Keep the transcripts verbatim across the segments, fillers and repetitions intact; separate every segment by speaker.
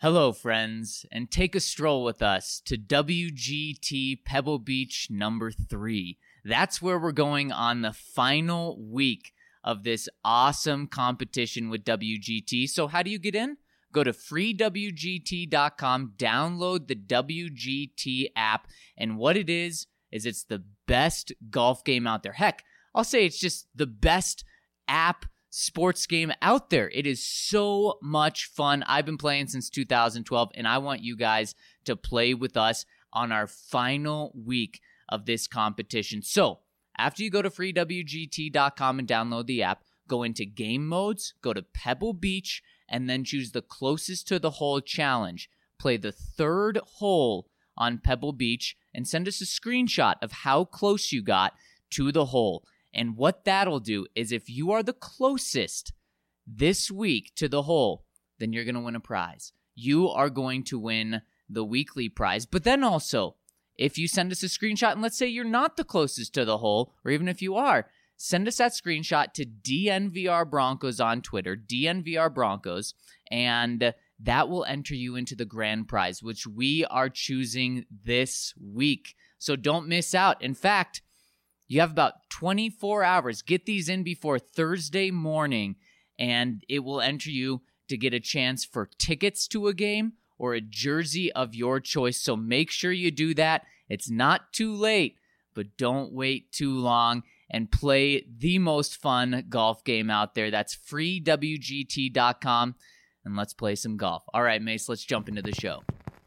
Speaker 1: Hello, friends, and take a stroll with us to W G T Pebble Beach number three. That's where we're going on the final week of this awesome competition with W G T. So how do you get in? Go to free W G T dot com, download the W G T app, and what it is, is it's the best golf game out there. Heck, I'll say it's just the best app sports game out there. It is so much fun. I've been playing since two thousand twelve, and I want you guys to play with us on our final week of this competition. So after you go to free W G T dot com and download the app, go into game modes, go to Pebble Beach, and then choose the closest to the hole challenge. Play the third hole on Pebble Beach and send us a screenshot of how close you got to the hole. And what that'll do is if you are the closest this week to the hole, then you're going to win a prize. You are going to win the weekly prize. But then also, if you send us a screenshot, and let's say you're not the closest to the hole, or even if you are, send us that screenshot to D N V R Broncos on Twitter, D N V R Broncos, and that will enter you into the grand prize, which we are choosing this week. So don't miss out. In fact, you have about twenty-four hours. Get these in before Thursday morning, and it will enter you to get a chance for tickets to a game or a jersey of your choice. So make sure you do that. It's not too late, but don't wait too long and play the most fun golf game out there. That's free W G T dot com, and let's play some golf. All right, Mace, let's jump into the show.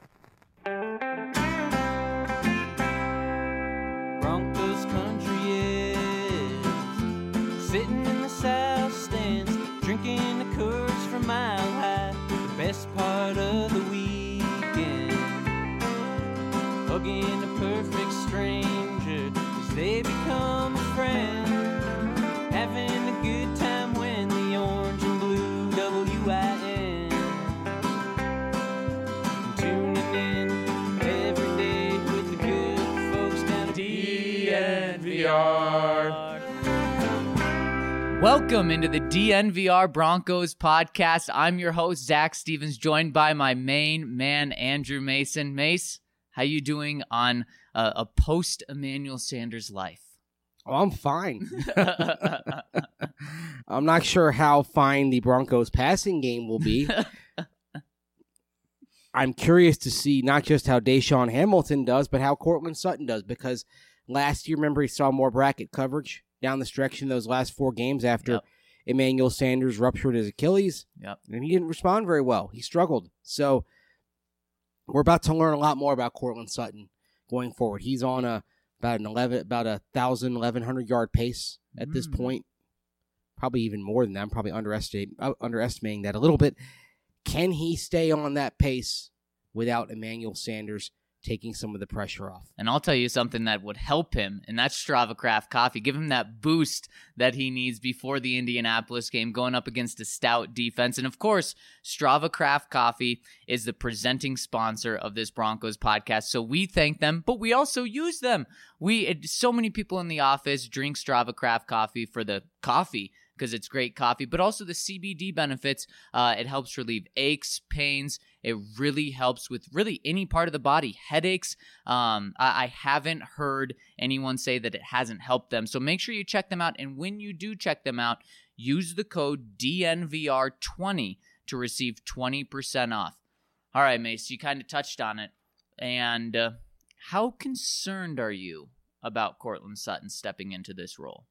Speaker 2: Broncos country is sitting in the south stands, drinking the Coors from Mile High. The best part of the weekend, hugging a perfect stranger as they become a friend, having a good time when the orange and blue W I N, tuning in every day with the good folks down at D N V R.
Speaker 1: Welcome into the D N V R Broncos podcast. I'm your host, Zach Stevens, joined by my main man, Andrew Mason. Mace, how you doing on uh, a post-Emmanuel Sanders life?
Speaker 3: Oh, I'm fine. I'm not sure how fine the Broncos passing game will be. I'm curious to see not just how Deshaun Hamilton does, but how Courtland Sutton does, because last year, remember, he saw more bracket coverage down the stretch in those last four games after yep. Emmanuel Sanders ruptured his Achilles,
Speaker 1: yep.
Speaker 3: and he didn't respond very well. He struggled. So we're about to learn a lot more about Courtland Sutton going forward. He's on a about an eleven, about a thousand, eleven hundred yard pace at mm. this point. Probably even more than that. I'm probably underestimating uh, underestimating that a little bit. Can he stay on that pace without Emmanuel Sanders taking some of the pressure off?
Speaker 1: And I'll tell you something that would help him, and that's Strava Craft Coffee. Give him that boost that he needs before the Indianapolis game, going up against a stout defense. And of course, Strava Craft Coffee is the presenting sponsor of this Broncos podcast, so we thank them, but we also use them. We it, so many people in the office drink Strava Craft Coffee for the coffee, because it's great coffee, but also the C B D benefits. Uh, it helps relieve aches, pains. It really helps with really any part of the body. Headaches, um, I, I haven't heard anyone say that it hasn't helped them. So make sure you check them out. And when you do check them out, use the code D N V R twenty to receive twenty percent off. All right, Mace, you kind of touched on it. And uh, how concerned are you about Courtland Sutton stepping into this role?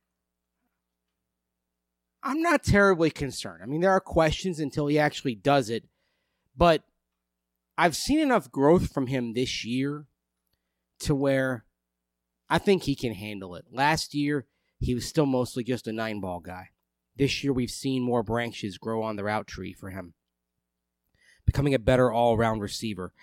Speaker 3: I'm not terribly concerned. I mean, there are questions until he actually does it. But I've seen enough growth from him this year to where I think he can handle it. Last year, he was still mostly just a nine-ball guy. This year, we've seen more branches grow on the route tree for him, becoming a better all-around receiver.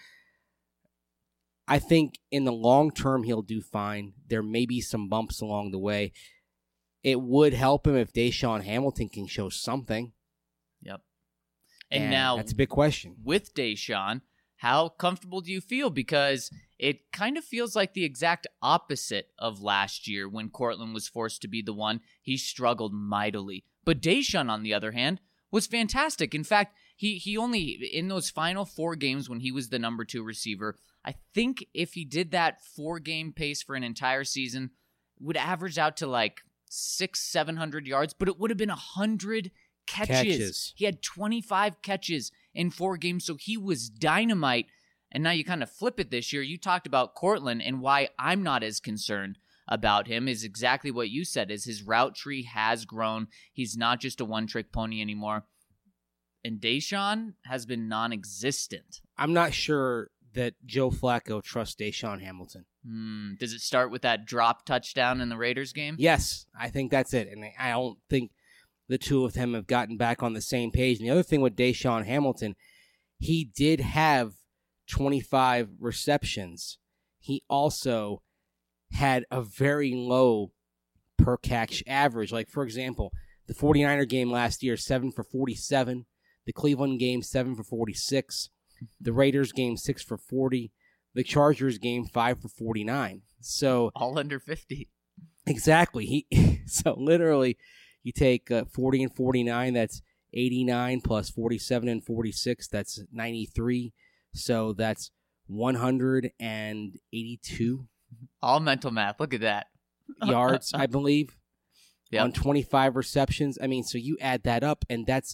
Speaker 3: I think in the long term, he'll do fine. There may be some bumps along the way. It would help him if Deshaun Hamilton can show something.
Speaker 1: Yep. And,
Speaker 3: and
Speaker 1: now,
Speaker 3: that's a big question.
Speaker 1: With Deshaun, how comfortable do you feel? Because it kind of feels like the exact opposite of last year when Courtland was forced to be the one. He struggled mightily. But Deshaun, on the other hand, was fantastic. In fact, He he only, in those final four games when he was the number two receiver, I think if he did that four-game pace for an entire season, would average out to like six, seven hundred yards, but it would have been a hundred catches.
Speaker 3: Catches.
Speaker 1: He had twenty-five catches in four games, so he was dynamite. And now you kind of flip it this year. You talked about Courtland, and why I'm not as concerned about him is exactly what you said, is his route tree has grown. He's not just a one-trick pony anymore. And Deshaun has been non-existent.
Speaker 3: I'm not sure that Joe Flacco trusts Deshaun Hamilton.
Speaker 1: Hmm. Does it start with that drop touchdown in the Raiders game?
Speaker 3: Yes, I think that's it. And I don't think the two of them have gotten back on the same page. And the other thing with Deshaun Hamilton, he did have twenty-five receptions. He also had a very low per catch average. Like, for example, the 49er game last year, seven for forty-seven. The Cleveland game, seven for forty-six. The Raiders game, six for forty. The Chargers game, five for forty-nine. So
Speaker 1: all under fifty.
Speaker 3: Exactly. He so literally, you take uh, forty and forty-nine. That's eighty-nine plus forty-seven and forty-six. That's ninety-three. So that's one hundred eighty-two.
Speaker 1: All mental math. Look at that.
Speaker 3: Yards, I believe,
Speaker 1: yep.
Speaker 3: on twenty-five receptions. I mean, so you add that up, and that's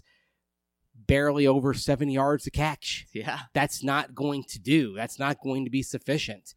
Speaker 3: barely over seven yards a catch.
Speaker 1: Yeah.
Speaker 3: That's not going to do. That's not going to be sufficient.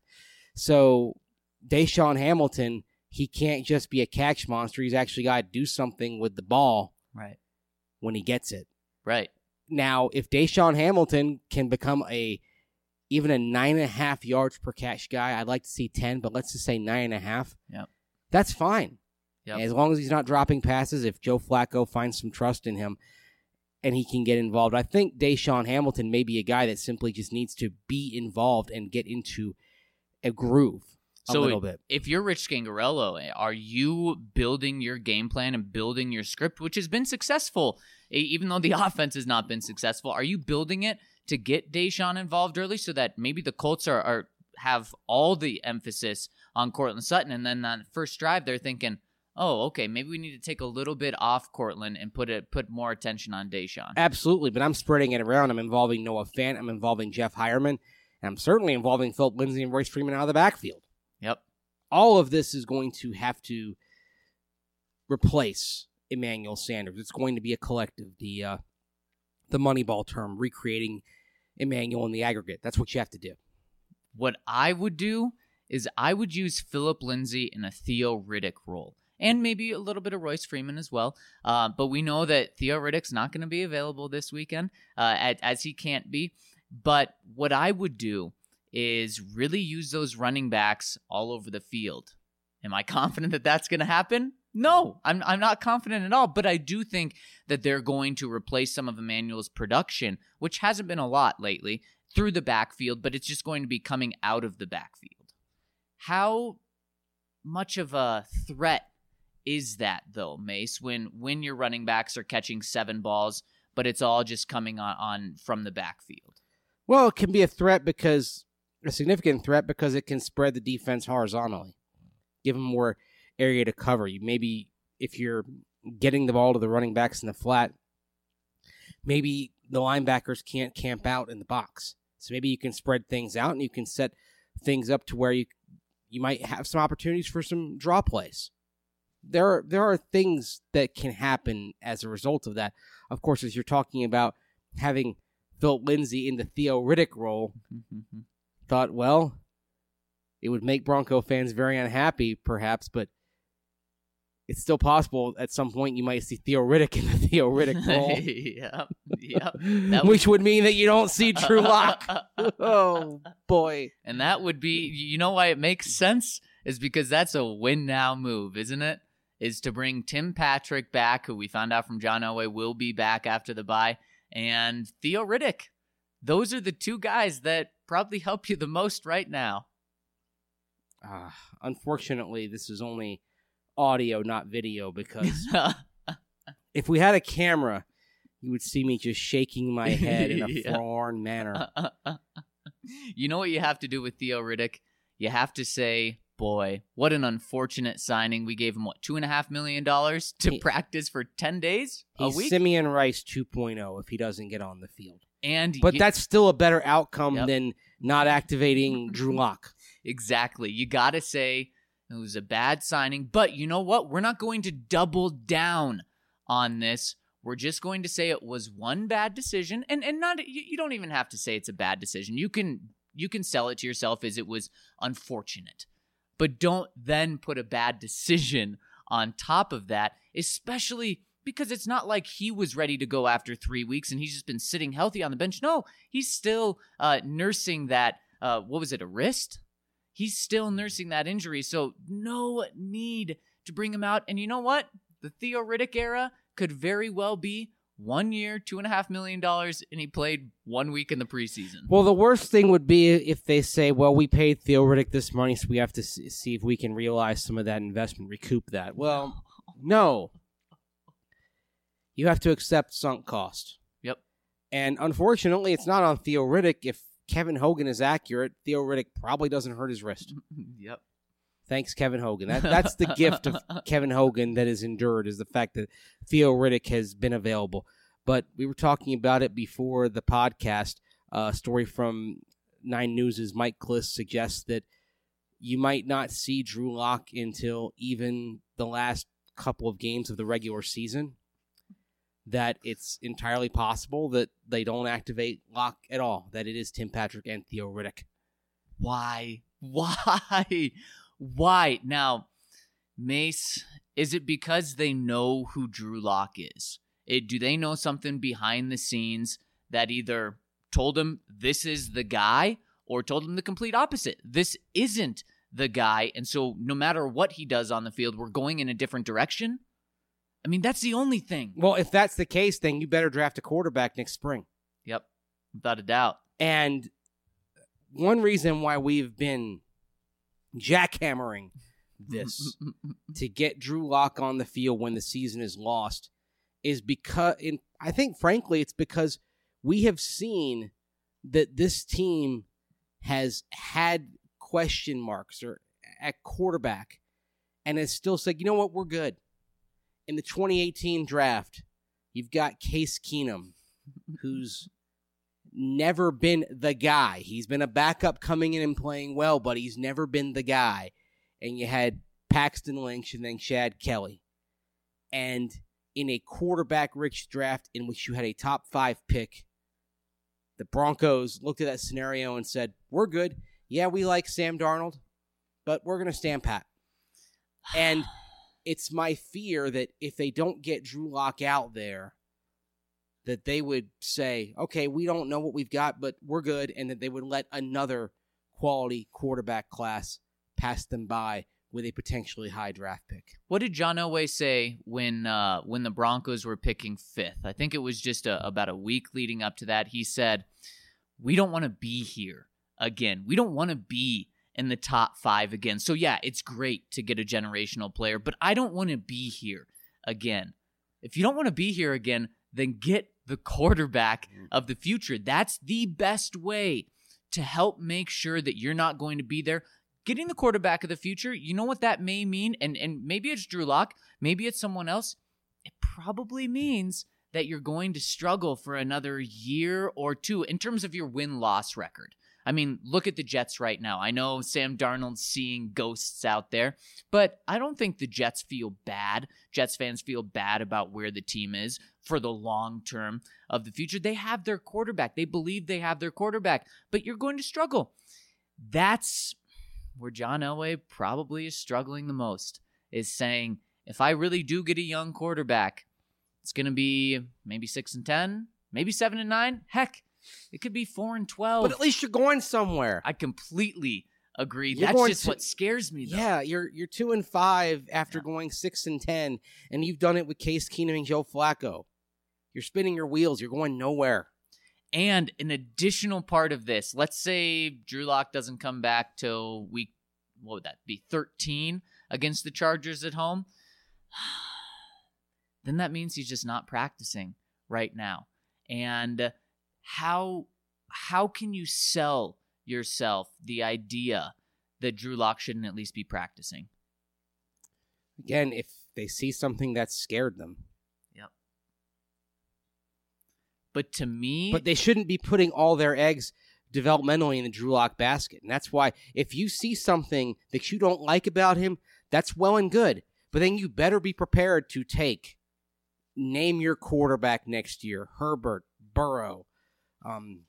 Speaker 3: So Deshaun Hamilton, he can't just be a catch monster. He's actually got to do something with the ball
Speaker 1: right
Speaker 3: when he gets it.
Speaker 1: Right.
Speaker 3: Now, if Deshaun Hamilton can become a even a nine and a half yards per catch guy, I'd like to see ten, but let's just say nine and a half.
Speaker 1: Yep.
Speaker 3: That's fine.
Speaker 1: Yep.
Speaker 3: As long as he's not dropping passes, if Joe Flacco finds some trust in him and he can get involved. I think Deshaun Hamilton may be a guy that simply just needs to be involved and get into a groove a
Speaker 1: so
Speaker 3: little bit.
Speaker 1: If you're Rich Scangarello, are you building your game plan and building your script, which has been successful, even though the offense has not been successful? Are you building it to get Deshaun involved early so that maybe the Colts are, are have all the emphasis on Courtland Sutton, and then on the first drive they're thinking, oh, okay, maybe we need to take a little bit off Courtland and put it put more attention on Deshaun?
Speaker 3: Absolutely, but I'm spreading it around. I'm involving Noah Fant. I'm involving Jeff Hireman. And I'm certainly involving Philip Lindsay and Royce Freeman out of the backfield.
Speaker 1: Yep.
Speaker 3: All of this is going to have to replace Emmanuel Sanders. It's going to be a collective. The uh, the Moneyball term, recreating Emmanuel in the aggregate. That's what you have to do.
Speaker 1: What I would do is I would use Philip Lindsay in a Theo Riddick role. And maybe a little bit of Royce Freeman as well. Uh, but we know that Theo Riddick's not going to be available this weekend, uh, as, as he can't be. But what I would do is really use those running backs all over the field. Am I confident that that's going to happen? No, I'm I'm not confident at all. But I do think that they're going to replace some of Emmanuel's production, which hasn't been a lot lately, through the backfield, but it's just going to be coming out of the backfield. How much of a threat is that, though, Mace, when when your running backs are catching seven balls, but it's all just coming on, on from the backfield?
Speaker 3: Well, it can be a threat because a significant threat because it can spread the defense horizontally, give them more area to cover. You maybe if you're getting the ball to the running backs in the flat, maybe the linebackers can't camp out in the box. So maybe you can spread things out and you can set things up to where you you might have some opportunities for some draw plays. There are, there are things that can happen as a result of that. Of course, as you're talking about having Philip Lindsay in the Theo Riddick role, thought, well, it would make Bronco fans very unhappy, perhaps, but it's still possible at some point you might see Theo Riddick in the Theo Riddick role.
Speaker 1: Yep, yep.
Speaker 3: Which would mean that you don't see Drew Lock. Oh, boy.
Speaker 1: And that would be, you know why it makes sense? Is because that's a win-now move, isn't it? Is to bring Tim Patrick back, who we found out from John Elway will be back after the bye, and Theo Riddick. Those are the two guys that probably help you the most right now.
Speaker 3: Uh, unfortunately, this is only audio, not video, because if we had a camera, you would see me just shaking my head in a
Speaker 1: Yeah.
Speaker 3: forlorn manner.
Speaker 1: You know what you have to do with Theo Riddick? You have to say, boy, what an unfortunate signing. We gave him, what, two and a half million dollars to
Speaker 3: He-
Speaker 1: practice for ten days a
Speaker 3: He's
Speaker 1: week?
Speaker 3: Simeon Rice two point oh if he doesn't get on the field.
Speaker 1: And
Speaker 3: But
Speaker 1: you-
Speaker 3: that's still a better outcome
Speaker 1: Yep.
Speaker 3: than not activating Drew Lock.
Speaker 1: Exactly. You got to say it was a bad signing. But you know what? We're not going to double down on this. We're just going to say it was one bad decision. And and not you, you don't even have to say it's a bad decision. You can you can sell it to yourself as it was unfortunate. But don't then put a bad decision on top of that, especially because it's not like he was ready to go after three weeks and he's just been sitting healthy on the bench. No, he's still uh, nursing that, uh, what was it, a wrist? He's still nursing that injury, so no need to bring him out. And you know what? The Theo Riddick era could very well be one year, two and a half million dollars, and he played one week in the preseason.
Speaker 3: Well, the worst thing would be if they say, well, we paid Theo Riddick this money, so we have to see if we can realize some of that investment, recoup that. Well, no. You have to accept sunk cost.
Speaker 1: Yep.
Speaker 3: And unfortunately, it's not on Theo Riddick. If Kevin Hogan is accurate, Theo Riddick probably doesn't hurt his wrist.
Speaker 1: Yep.
Speaker 3: Thanks, Kevin Hogan. That, that's the gift of Kevin Hogan that is endured, is the fact that Theo Riddick has been available. But we were talking about it before the podcast. A uh, story from Nine News' Mike Kliss suggests that you might not see Drew Lock until even the last couple of games of the regular season. That it's entirely possible that they don't activate Lock at all, that it is Tim Patrick and Theo Riddick.
Speaker 1: Why? Why? Why? Now, Mace, is it because they know who Drew Lock is? It, do they know something behind the scenes that either told him this is the guy or told him the complete opposite? This isn't the guy, and so no matter what he does on the field, we're going in a different direction? I mean, that's the only thing.
Speaker 3: Well, if that's the case, then you better draft a quarterback next spring.
Speaker 1: Yep, without a doubt.
Speaker 3: And one reason why we've been jackhammering this to get Drew Lock on the field when the season is lost is because, in, I think, frankly, it's because we have seen that this team has had question marks or at quarterback and has still said, you know what, we're good. In the twenty eighteen draft, you've got Case Keenum, who's never been the guy. He's been a backup coming in and playing well, but he's never been the guy. And you had Paxton Lynch and then Chad Kelly. And in a quarterback-rich draft in which you had a top five pick, the Broncos looked at that scenario and said, we're good. Yeah, we like Sam Darnold, but we're going to stand pat. And it's my fear that if they don't get Drew Lock out there, that they would say, okay, we don't know what we've got, but we're good, and that they would let another quality quarterback class pass them by with a potentially high draft pick.
Speaker 1: What did John Elway say when uh, when the Broncos were picking fifth? I think it was just a, about a week leading up to that. He said, we don't want to be here again. We don't want to be in the top five again. So yeah, it's great to get a generational player, but I don't want to be here again. If you don't want to be here again, then get the quarterback of the future. That's the best way to help make sure that you're not going to be there. Getting the quarterback of the future, you know what that may mean? And and maybe it's Drew Lock, maybe it's someone else. It probably means that you're going to struggle for another year or two in terms of your win-loss record. I mean, look at the Jets right now. I know Sam Darnold's seeing ghosts out there, but I don't think the Jets feel bad. Jets fans feel bad about where the team is for the long term of the future. They have their quarterback. They believe they have their quarterback, but you're going to struggle. That's where John Elway probably is struggling the most, is saying, if I really do get a young quarterback, it's going to be maybe six and ten, maybe seven and nine. Heck, it could be four and twelve.
Speaker 3: But at least you're going somewhere.
Speaker 1: I completely agree.
Speaker 3: You're
Speaker 1: That's
Speaker 3: going
Speaker 1: just
Speaker 3: to-
Speaker 1: what scares me, though.
Speaker 3: Yeah, you're you're two and five after
Speaker 1: Yeah.
Speaker 3: going six and ten, and you've done it with Case Keenum and Joe Flacco. You're spinning your wheels. You're going nowhere.
Speaker 1: And an additional part of this, let's say Drew Lock doesn't come back till week, what would that be, thirteen against the Chargers at home. Then that means he's just not practicing right now. And how how can you sell yourself the idea that Drew Lock shouldn't at least be practicing.
Speaker 3: Again, if they see something that scared them.
Speaker 1: Yep. But to me...
Speaker 3: But they shouldn't be putting all their eggs developmentally in the Drew Lock basket. And that's why if you see something that you don't like about him, that's well and good. But then you better be prepared to take, name your quarterback next year, Herbert, Burrow, um,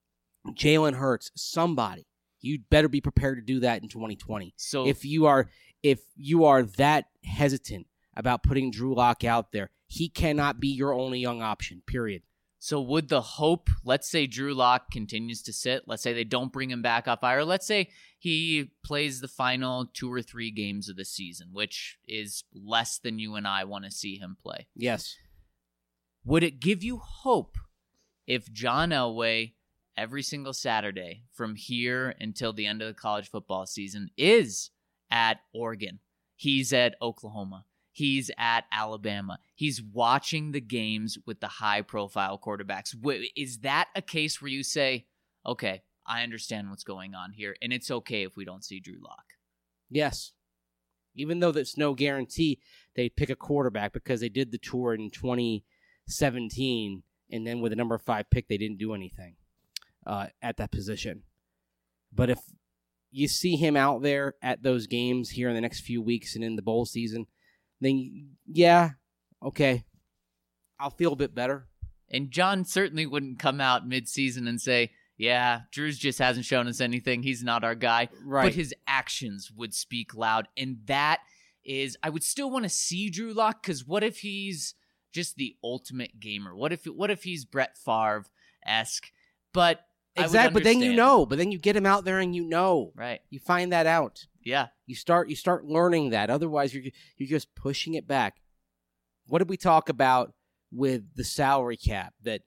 Speaker 3: Jalen Hurts, somebody. You'd better be prepared to do that in twenty twenty.
Speaker 1: So
Speaker 3: if you are if you are that hesitant about putting Drew Lock out there, he cannot be your only young option, period.
Speaker 1: So would the hope, let's say Drew Lock continues to sit, let's say they don't bring him back off I R, let's say he plays the final two or three games of the season, which is less than you and I want to see him play.
Speaker 3: Yes.
Speaker 1: Would it give you hope if John Elway, every single Saturday from here until the end of the college football season, is at Oregon, he's at Oklahoma, he's at Alabama, he's watching the games with the high-profile quarterbacks? Is that a case where you say, okay, I understand what's going on here, and it's okay if we don't see Drew Lock?
Speaker 3: Yes. Even though there's no guarantee they'd pick a quarterback because they did the tour in twenty seventeen, and then with the number five pick, they didn't do anything uh, at that position. But if you see him out there at those games here in the next few weeks and in the bowl season, then yeah, okay, I'll feel a bit better.
Speaker 1: And John certainly wouldn't come out mid-season and say, yeah, Drew's just hasn't shown us anything. He's not our guy.
Speaker 3: Right.
Speaker 1: But his actions would speak loud. And that is, I would still want to see Drew Lock, because what if he's just the ultimate gamer? What if what if he's Brett Favre-esque? But
Speaker 3: exactly, but then you know. But then you get him out there and you know.
Speaker 1: Right.
Speaker 3: You find that out.
Speaker 1: Yeah.
Speaker 3: You start you start learning that. Otherwise, you're you're just pushing it back. What did we talk about with the salary cap? That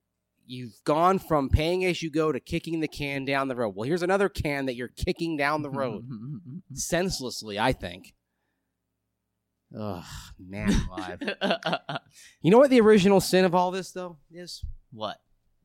Speaker 3: you've gone from paying as you go to kicking the can down the road. Well, here's another can that you're kicking down the road. Senselessly, I think. Ugh, man alive. You know what the original sin of all this, though, is?
Speaker 1: What?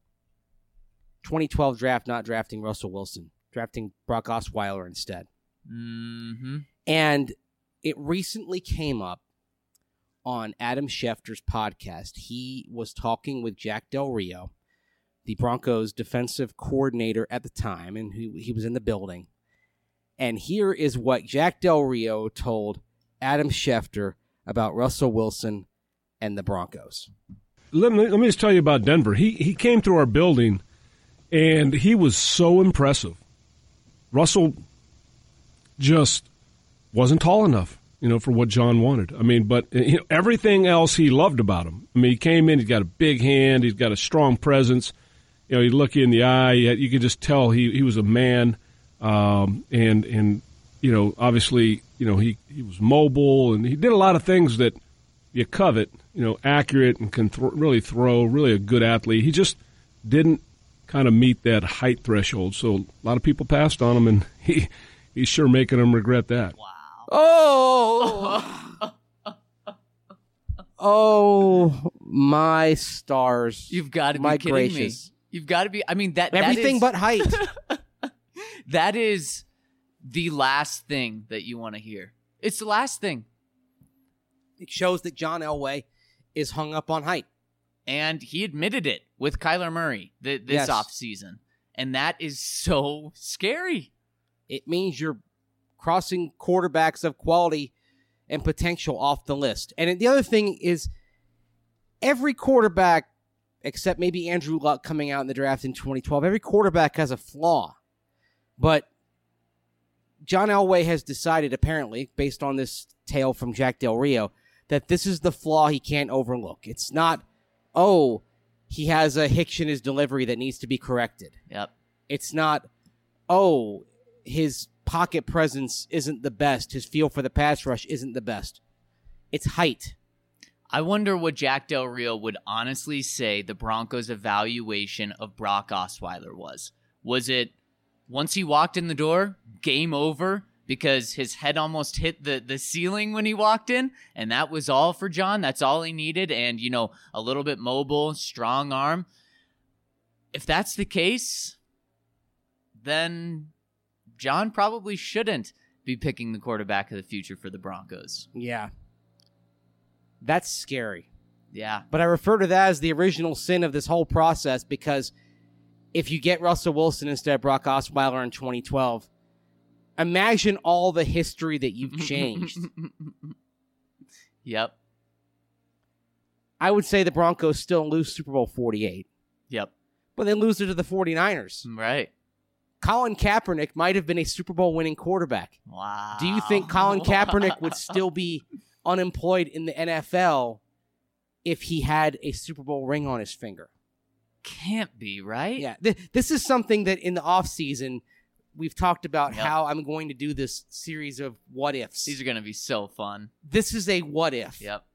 Speaker 3: twenty twelve draft not drafting Russell Wilson. Drafting Brock Osweiler instead.
Speaker 1: Mm-hmm.
Speaker 3: And it recently came up on Adam Schefter's podcast. He was talking with Jack Del Rio, the Broncos defensive coordinator at the time, and he, he was in the building. And here is what Jack Del Rio told Adam Schefter about Russell Wilson and the Broncos.
Speaker 4: Let me, let me just tell you about Denver. He he came through our building, and he was so impressive. Russell just wasn't tall enough, you know, for what John wanted. I mean, but you know, everything else he loved about him. I mean, he came in, he's got a big hand, he's got a strong presence. You know, he'd look you in the eye. You could just tell he, he was a man, um, and and you know, obviously, you know, he, he was mobile, and he did a lot of things that you covet. You know, accurate and can th- really throw. Really a good athlete. He just didn't kind of meet that height threshold. So a lot of people passed on him, and he he's sure making them regret that.
Speaker 1: Wow.
Speaker 3: Oh. Oh my stars!
Speaker 1: You've got to be
Speaker 3: my
Speaker 1: kidding
Speaker 3: gracious.
Speaker 1: me. You've got to be. I mean that
Speaker 3: everything
Speaker 1: that is,
Speaker 3: but height.
Speaker 1: That is the last thing that you want to hear. It's the last thing.
Speaker 3: It shows that John Elway is hung up on height,
Speaker 1: and he admitted it with Kyler Murray th- this
Speaker 3: yes.
Speaker 1: offseason, and that is so scary.
Speaker 3: It means you're crossing quarterbacks of quality and potential off the list. And the other thing is, every quarterback, except maybe Andrew Luck coming out in the draft in twenty twelve, every quarterback has a flaw. But John Elway has decided, apparently, based on this tale from Jack Del Rio, that this is the flaw he can't overlook. It's not, oh, he has a hitch in his delivery that needs to be corrected.
Speaker 1: Yep.
Speaker 3: It's not, oh, his pocket presence isn't the best. His feel for the pass rush isn't the best. It's height.
Speaker 1: I wonder what Jack Del Rio would honestly say the Broncos' evaluation of Brock Osweiler was. Was it, once he walked in the door, game over because his head almost hit the, the ceiling when he walked in, and that was all for John? That's all he needed, and, you know, a little bit mobile, strong arm. If that's the case, then John probably shouldn't be picking the quarterback of the future for the Broncos.
Speaker 3: Yeah. That's scary.
Speaker 1: Yeah.
Speaker 3: But I refer to that as the original sin of this whole process because if you get Russell Wilson instead of Brock Osweiler in twenty twelve, imagine all the history that you've changed.
Speaker 1: Yep.
Speaker 3: I would say the Broncos still lose Super Bowl forty-eight.
Speaker 1: Yep.
Speaker 3: But they lose it to the 49ers.
Speaker 1: Right.
Speaker 3: Colin Kaepernick might have been a Super Bowl winning quarterback.
Speaker 1: Wow.
Speaker 3: Do you think Colin Kaepernick would still be unemployed in the N F L if he had a Super Bowl ring on his finger?
Speaker 1: Can't be, right?
Speaker 3: Yeah. Th- this is something that in the offseason, we've talked about
Speaker 1: Yep.
Speaker 3: how I'm going to do this series of what ifs.
Speaker 1: These are going to be so fun.
Speaker 3: This is a what if.
Speaker 1: Yep.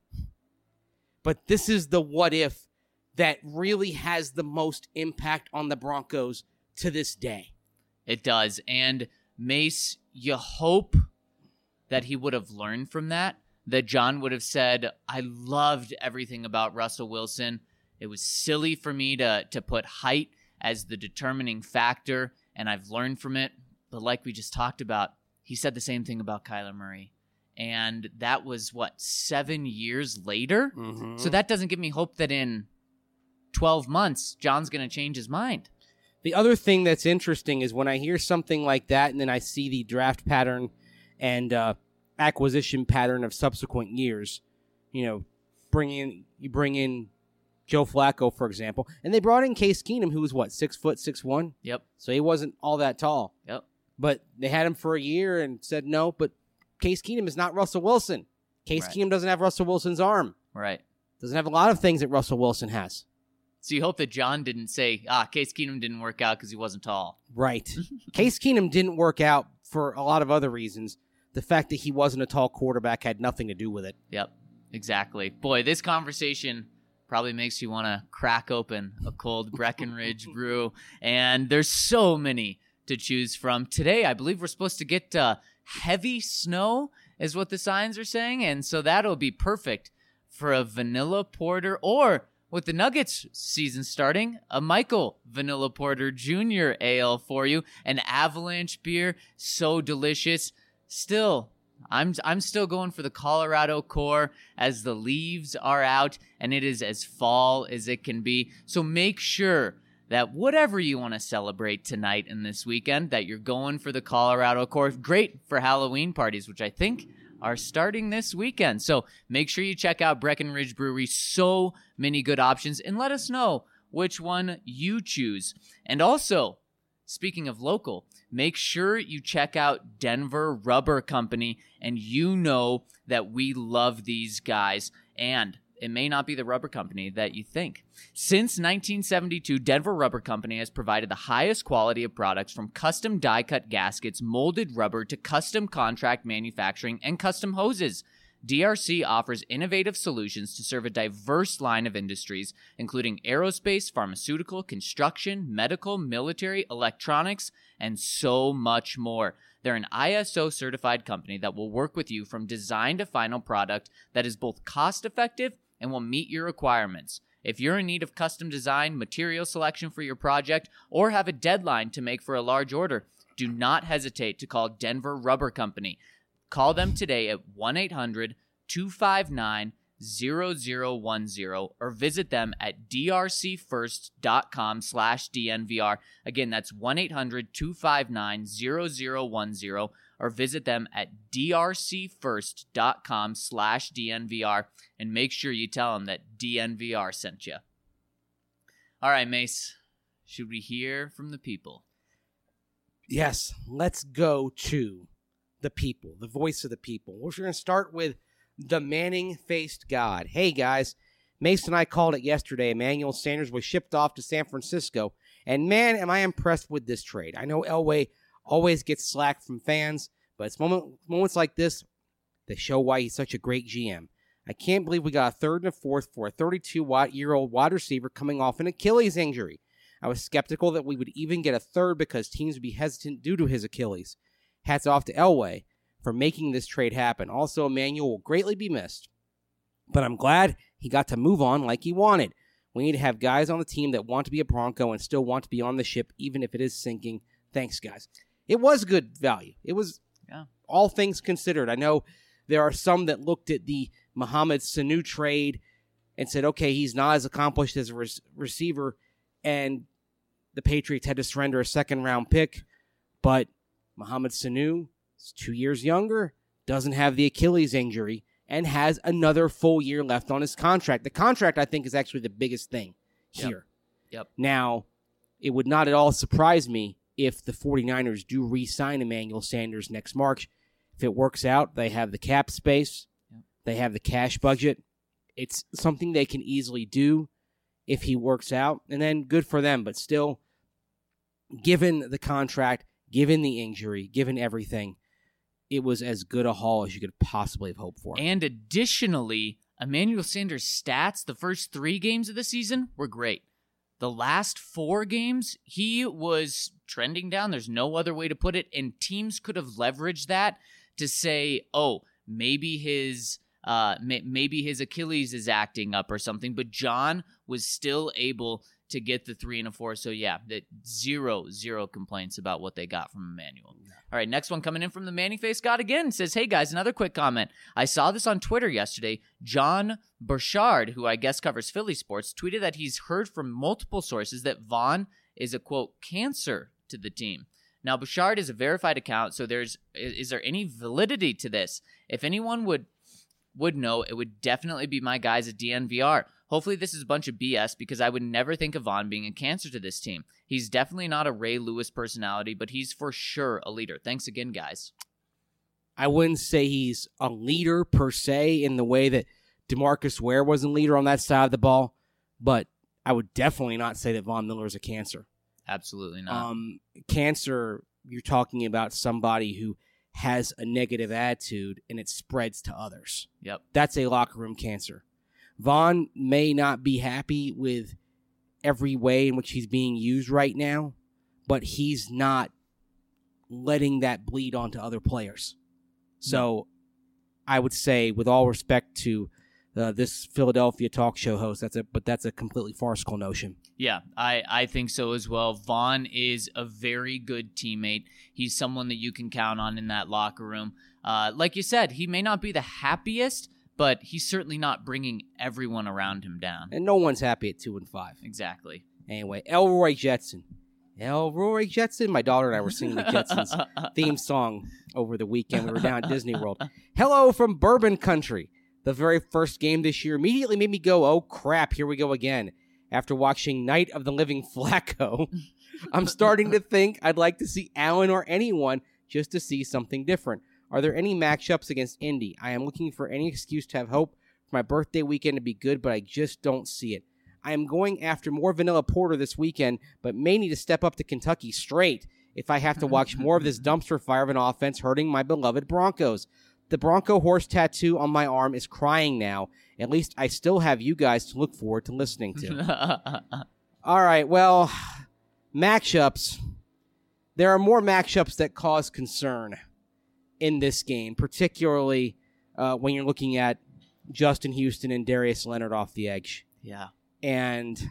Speaker 3: But this is the what if that really has the most impact on the Broncos to this day.
Speaker 1: It does. And Mace, you hope that he would have learned from that, that John would have said, I loved everything about Russell Wilson. It was silly for me to, to put height as the determining factor, and I've learned from it. But like we just talked about, he said the same thing about Kyler Murray. And that was, what, seven years later?
Speaker 3: Mm-hmm.
Speaker 1: So that doesn't give me hope that in twelve months, John's going to change his mind.
Speaker 3: The other thing that's interesting is when I hear something like that and then I see the draft pattern and uh, acquisition pattern of subsequent years, you know, bring in, you bring in Joe Flacco, for example, and they brought in Case Keenum, who was, what, six foot, six one?
Speaker 1: Yep.
Speaker 3: So he wasn't all that tall.
Speaker 1: Yep.
Speaker 3: But they had him for a year and said no, but Case Keenum is not Russell Wilson. Case
Speaker 1: Right.
Speaker 3: Keenum doesn't have Russell Wilson's arm.
Speaker 1: Right.
Speaker 3: Doesn't have a lot of things that Russell Wilson has.
Speaker 1: So you hope that John didn't say, ah, Case Keenum didn't work out because he wasn't tall.
Speaker 3: Right. Case Keenum didn't work out for a lot of other reasons. The fact that he wasn't a tall quarterback had nothing to do with it.
Speaker 1: Yep, exactly. Boy, this conversation probably makes you want to crack open a cold Breckenridge brew. And there's so many to choose from. Today, I believe we're supposed to get uh, heavy snow is what the signs are saying. And so that'll be perfect for a vanilla porter, or with the Nuggets season starting, a Michael Vanilla Porter Junior Ale for you. An Avalanche beer, so delicious. Still, I'm I'm still going for the Colorado Core as the leaves are out and it is as fall as it can be. So make sure that whatever you want to celebrate tonight and this weekend, that you're going for the Colorado Core. Great for Halloween parties, which I think are starting this weekend. So make sure you check out Breckenridge Brewery. So many good options, and let us know which one you choose. And also, speaking of local, make sure you check out Denver Rubber Company, and you know that we love these guys. And it may not be the rubber company that you think. Since nineteen seventy-two, Denver Rubber Company has provided the highest quality of products, from custom die-cut gaskets, molded rubber, to custom contract manufacturing and custom hoses. D R C offers innovative solutions to serve a diverse line of industries, including aerospace, pharmaceutical, construction, medical, military, electronics, and so much more. They're an I S O-certified company that will work with you from design to final product that is both cost-effective and will meet your requirements. If you're in need of custom design, material selection for your project, or have a deadline to make for a large order, do not hesitate to call Denver Rubber Company. Call them today at one eight hundred two five nine zero zero one zero or visit them at drcfirst.com slash DNVR. Again, that's one eight hundred two five nine zero zero one zero or visit them at drcfirst.com slash DNVR, and make sure you tell them that D N V R sent you. All right, Mace, should we hear from the people?
Speaker 3: Yes, let's go to the people, the voice of the people. We're going to start with the Manning-faced God. Hey, guys, Mason and I called it yesterday. Emmanuel Sanders was shipped off to San Francisco, and man, am I impressed with this trade. I know Elway always gets slack from fans, but it's moment, moments like this that show why he's such a great G M. I can't believe we got a third and a fourth for a thirty-two-year-old wide receiver coming off an Achilles injury. I was skeptical that we would even get a third because teams would be hesitant due to his Achilles. Hats off to Elway for making this trade happen. Also, Emmanuel will greatly be missed, but I'm glad he got to move on like he wanted. We need to have guys on the team that want to be a Bronco and still want to be on the ship, even if it is sinking. Thanks, guys. It was good value. It was,
Speaker 1: Yeah.
Speaker 3: all things considered. I know there are some that looked at the Mohamed Sanu trade and said, okay, he's not as accomplished as a re- receiver, and the Patriots had to surrender a second-round pick, but Mohamed Sanu is two years younger, doesn't have the Achilles injury, and has another full year left on his contract. The contract, I think, is actually the biggest thing here.
Speaker 1: Yep. Yep.
Speaker 3: Now, it would not at all surprise me if the 49ers do re-sign Emmanuel Sanders next March. If it works out, they have the cap space.
Speaker 1: Yep.
Speaker 3: They have the cash budget. It's something they can easily do if he works out, and then good for them. But still, given the contract, given the injury, given everything, it was as good a haul as you could possibly have hoped for.
Speaker 1: And additionally, Emmanuel Sanders' stats the first three games of the season were great. The last four games, he was trending down. There's no other way to put it. And teams could have leveraged that to say, oh, maybe his uh, may- maybe his Achilles is acting up or something. But John was still able to get the three and a four. So, yeah, that zero, zero complaints about what they got from Emmanuel. All right, next one coming in from the Manny Face God again. Says, hey, guys, another quick comment. I saw this on Twitter yesterday. John Burchard, who I guess covers Philly sports, tweeted that he's heard from multiple sources that Vaughn is a, quote, cancer to the team. Now, Burchard is a verified account, so there's is, is there any validity to this? If anyone would would know, it would definitely be my guys at D N V R. Hopefully this is a bunch of B S because I would never think of Vaughn being a cancer to this team. He's definitely not a Ray Lewis personality, but he's for sure a leader. Thanks again, guys.
Speaker 3: I wouldn't say he's a leader per se in the way that DeMarcus Ware was a leader on that side of the ball, but I would definitely not say that Von Miller is a cancer.
Speaker 1: Absolutely not.
Speaker 3: Um, cancer, you're talking about somebody who has a negative attitude and it spreads to others.
Speaker 1: Yep.
Speaker 3: That's a locker room cancer. Vaughn may not be happy with every way in which he's being used right now, but he's not letting that bleed onto other players. So I would say, with all respect to uh, this Philadelphia talk show host, that's a but that's a completely farcical notion.
Speaker 1: Yeah, I, I think so as well. Vaughn is a very good teammate. He's someone that you can count on in that locker room. Uh, like you said, he may not be the happiest, but he's certainly not bringing everyone around him down.
Speaker 3: And no one's happy at two and five.
Speaker 1: Exactly.
Speaker 3: Anyway, Elroy Jetson. Elroy Jetson. My daughter and I were singing the Jetsons theme song over the weekend. We were down at Disney World. Hello from Bourbon Country. The very first game this year immediately made me go, oh crap, here we go again. After watching Night of the Living Flacco, I'm starting to think I'd like to see Allen or anyone just to see something different. Are there any matchups against Indy? I am looking for any excuse to have hope for my birthday weekend to be good, but I just don't see it. I am going after more vanilla porter this weekend, but may need to step up to Kentucky straight if I have to watch more of this dumpster fire of an offense hurting my beloved Broncos. The Bronco horse tattoo on my arm is crying now. At least I still have you guys to look forward to listening to. All right, well, matchups. There are more matchups that cause concern in this game, particularly uh, when you're looking at Justin Houston and Darius Leonard off the edge.
Speaker 1: Yeah.
Speaker 3: And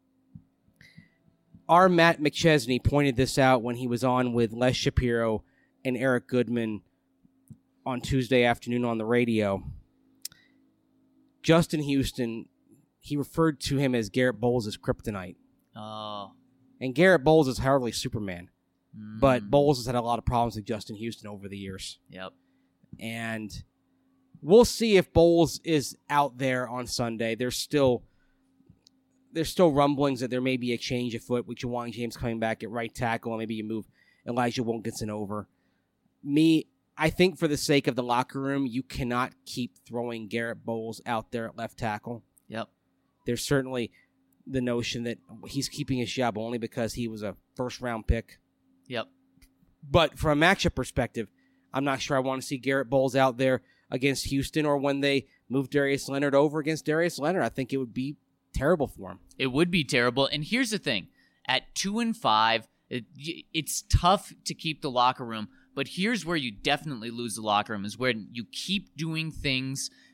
Speaker 3: our Matt McChesney pointed this out when he was on with Les Shapiro and Eric Goodman on Tuesday afternoon on the radio. Justin Houston, he referred to him as Garrett Bowles' kryptonite.
Speaker 1: Oh.
Speaker 3: And Garrett Bowles is hardly Superman.
Speaker 1: Mm.
Speaker 3: But Bowles has had a lot of problems with Justin Houston over the years.
Speaker 1: Yep.
Speaker 3: And we'll see if Bowles is out there on Sunday. There's still there's still rumblings that there may be a change afoot with Ja'Wuan James coming back at right tackle, and maybe you move Elijah Wilkinson over. Me, I think for the sake of the locker room, you cannot keep throwing Garrett Bowles out there at left tackle.
Speaker 1: Yep.
Speaker 3: There's certainly the notion that he's keeping his job only because he was a first-round pick.
Speaker 1: Yep.
Speaker 3: But from a matchup perspective, I'm not sure I want to see Garrett Bowles out there against Houston or when they move Darius Leonard over against Darius Leonard. I think it would be terrible for him.
Speaker 1: It would be terrible. And here's the thing. At two and five, it, it's tough to keep the locker room. But here's where you definitely lose the locker room is when you keep doing things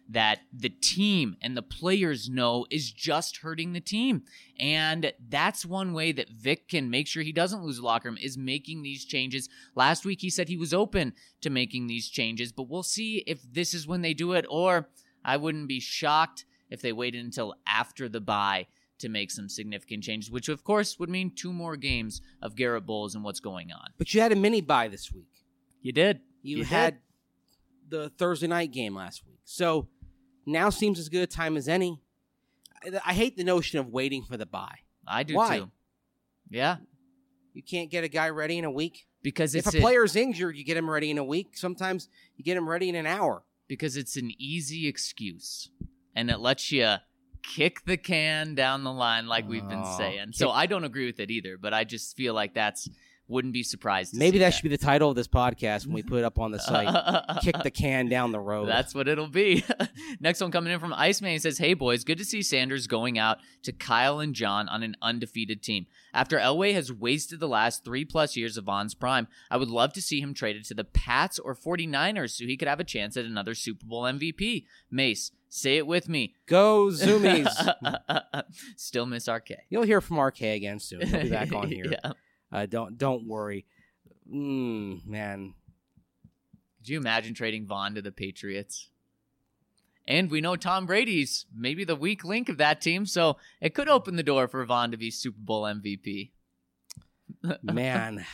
Speaker 1: that the team and the players know is just hurting the team. And that's one way that Vic can make sure he doesn't lose the locker room, is making these changes. Last week he said he was open to making these changes, but we'll see if this is when they do it, or I wouldn't be shocked if they waited until after the bye to make some significant changes, which of course would mean two more games of Garrett Bowles and what's going on.
Speaker 3: But you had a mini bye this week.
Speaker 1: You did.
Speaker 3: You,
Speaker 1: you
Speaker 3: had
Speaker 1: did.
Speaker 3: the Thursday night game last week. So now seems as good a time as any. I, I hate the notion of waiting for the bye.
Speaker 1: I do
Speaker 3: Why?
Speaker 1: too. Yeah.
Speaker 3: You can't get a guy ready in a week?
Speaker 1: Because
Speaker 3: if
Speaker 1: it's
Speaker 3: a player's injured, you get him ready in a week. Sometimes you get him ready in an hour.
Speaker 1: Because it's an easy excuse. And it lets you kick the can down the line like we've been
Speaker 3: Oh,
Speaker 1: saying.
Speaker 3: kick-
Speaker 1: So I don't agree with it either, but I just feel like that's wouldn't be surprised to
Speaker 3: Maybe
Speaker 1: see
Speaker 3: that, should be the title of this podcast when we put it up on the site.
Speaker 1: that.
Speaker 3: Kick the can down the road.
Speaker 1: That's what it'll be. Next one coming in from Iceman. He says, hey, boys, good to see Sanders going out to Kyle and John on an undefeated team. After Elway has wasted the last three-plus years of Vaughn's prime, I would love to see him traded to the Pats or 49ers so he could have a chance at another Super Bowl M V P. Mace, say it with me.
Speaker 3: Go Zoomies.
Speaker 1: Still miss R K.
Speaker 3: You'll hear from R K again soon. He'll be back on here.
Speaker 1: Yeah.
Speaker 3: Uh, don't don't worry. Mm, man.
Speaker 1: Could you imagine trading Vaughn to the Patriots? And we know Tom Brady's maybe the weak link of that team, so it could open the door for Vaughn to be Super Bowl M V P.
Speaker 3: Man.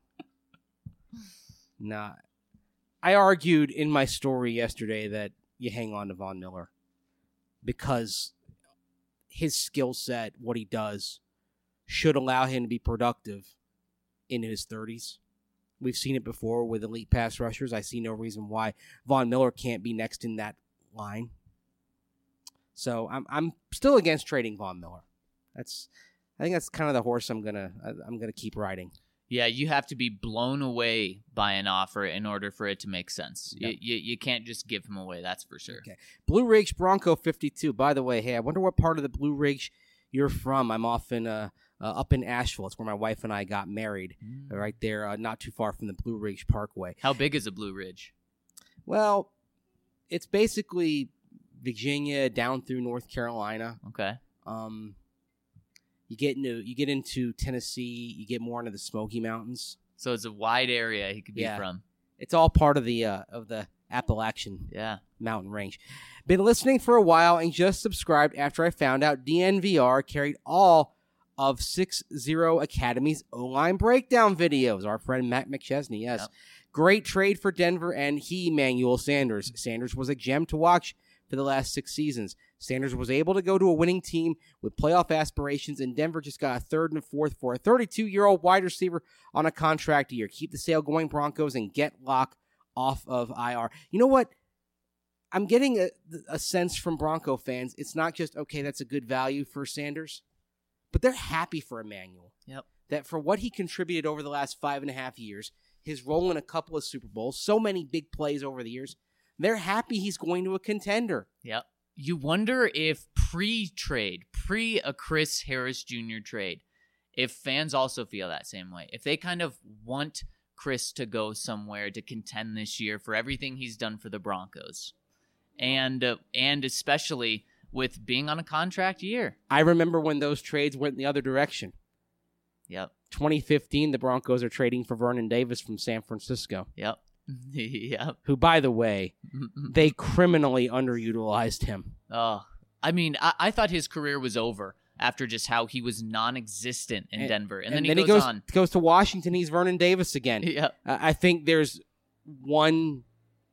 Speaker 3: Nah. I argued in my story yesterday that you hang on to Von Miller because his skill set, what he does, should allow him to be productive in his thirties. We've seen it before with elite pass rushers. I see no reason why Von Miller can't be next in that line. So I'm I'm still against trading Von Miller. That's I think that's kind of the horse I'm gonna I'm gonna keep riding.
Speaker 1: Yeah, you have to be blown away by an offer in order for it to make sense.
Speaker 3: Yep.
Speaker 1: You, you you can't just give him away, that's for sure.
Speaker 3: Okay. Blue Ridge Bronco fifty-two. By the way, hey, I wonder what part of the Blue Ridge you're from. I'm off in uh, uh up in Asheville. It's where my wife and I got married.
Speaker 1: Mm.
Speaker 3: Right there, uh, not too far from the Blue Ridge Parkway.
Speaker 1: How big is a Blue Ridge?
Speaker 3: Well, it's basically Virginia down through North Carolina.
Speaker 1: Okay.
Speaker 3: Um, you get into you get into Tennessee. You get more into the Smoky Mountains.
Speaker 1: So it's a wide area he could be
Speaker 3: Yeah.
Speaker 1: from.
Speaker 3: It's all part of the uh, of the Appalachian
Speaker 1: Yeah.
Speaker 3: mountain range. Been listening for a while and just subscribed after I found out D N V R carried all of six zero Academy's O-line breakdown videos. Our friend Matt McChesney, yes.
Speaker 1: Yep.
Speaker 3: Great trade for Denver and he, Manuel Sanders. Sanders was a gem to watch for the last six seasons. Sanders was able to go to a winning team with playoff aspirations, and Denver just got a third and a fourth for a thirty-two-year-old wide receiver on a contract year. Keep the sale going, Broncos, and get Locke off of I R. You know what? I'm getting a, a sense from Bronco fans. It's not just, okay, that's a good value for Sanders, but they're happy for Emmanuel.
Speaker 1: Yep.
Speaker 3: That for what he contributed over the last five and a half years, his role in a couple of Super Bowls, so many big plays over the years, they're happy he's going to a contender.
Speaker 1: Yep. You wonder if pre-trade, pre a Chris Harris Junior trade, if fans also feel that same way. If they kind of want Chris to go somewhere to contend this year for everything he's done for the Broncos. And uh, and especially with being on a contract year.
Speaker 3: I remember when those trades went in the other direction.
Speaker 1: Yep.
Speaker 3: twenty fifteen, the Broncos are trading for Vernon Davis from San Francisco,
Speaker 1: Yep. Yep.
Speaker 3: who, by the way, they criminally underutilized him.
Speaker 1: Oh, I mean, I, I thought his career was over after just how he was non-existent in
Speaker 3: And-
Speaker 1: Denver. And,
Speaker 3: And
Speaker 1: then,
Speaker 3: then
Speaker 1: he, goes,
Speaker 3: goes,
Speaker 1: on.
Speaker 3: goes to Washington. He's Vernon Davis again.
Speaker 1: Yep.
Speaker 3: Uh, I think there's one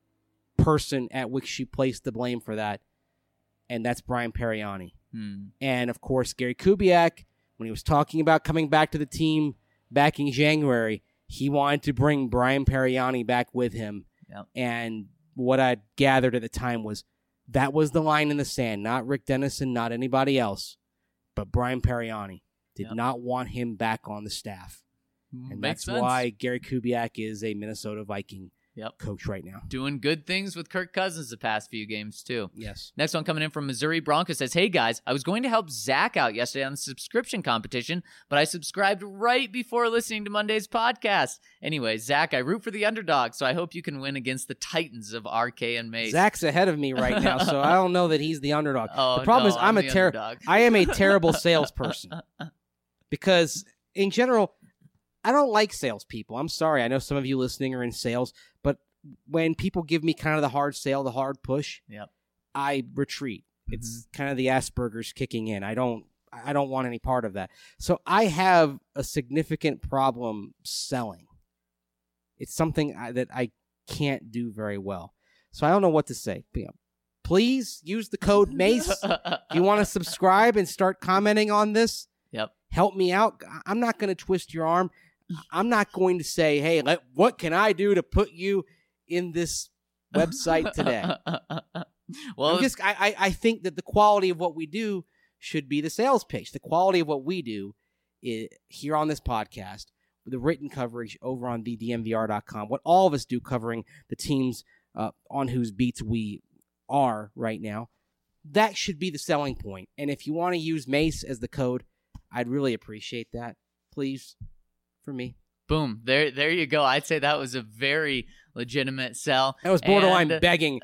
Speaker 3: person at which she placed the blame for that, and that's Brian Periani.
Speaker 1: Hmm.
Speaker 3: And, of course, Gary Kubiak, when he was talking about coming back to the team back in January, he wanted to bring Brian Periani back with him.
Speaker 1: Yep.
Speaker 3: And what I gathered at the time was that was the line in the sand, not Rick Dennison, not anybody else, but Brian Periani did
Speaker 1: Yep.
Speaker 3: not want him back on the staff. And
Speaker 1: Makes
Speaker 3: that's
Speaker 1: sense.
Speaker 3: why Gary Kubiak is a Minnesota Viking
Speaker 1: Yep.
Speaker 3: coach right now.
Speaker 1: Doing good things with Kirk Cousins the past few games, too.
Speaker 3: Yes.
Speaker 1: Next one coming in from Missouri Bronco says, hey, guys, I was going to help Zach out yesterday on the subscription competition, but I subscribed right before listening to Monday's podcast. Anyway, Zach, I root for the underdog, so I hope you can win against the Titans of R K and Mace.
Speaker 3: Zach's ahead of me right now, so I don't know that he's the underdog.
Speaker 1: Oh,
Speaker 3: the problem
Speaker 1: no,
Speaker 3: is I'm,
Speaker 1: I'm
Speaker 3: a
Speaker 1: the
Speaker 3: terrible
Speaker 1: underdog.
Speaker 3: I am a terrible salesperson because in general, I don't like salespeople. I'm sorry. I know some of you listening are in sales, but when people give me kind of the hard sale, the hard push,
Speaker 1: Yep.
Speaker 3: I retreat. It's kind of the Asperger's kicking in. I don't I don't want any part of that. So I have a significant problem selling. It's something I, that I can't do very well. So I don't know what to say. You know, please use the code MACE. If you want to subscribe and start commenting on this,
Speaker 1: Yep.
Speaker 3: help me out. I'm not going to twist your arm. I'm not going to say, hey, let, what can I do to put you in this website today?
Speaker 1: well,
Speaker 3: I'm just, I, I, I think that the quality of what we do should be the sales pitch. The quality of what we do is, here on this podcast, the written coverage over on the D N V R dot com, what all of us do covering the teams uh, on whose beats we are right now, that should be the selling point. And if you want to use MACE as the code, I'd really appreciate that. Please, for me.
Speaker 1: boom. There there you go. I'd say that was a very legitimate sell.
Speaker 3: That was borderline
Speaker 1: And-
Speaker 3: begging.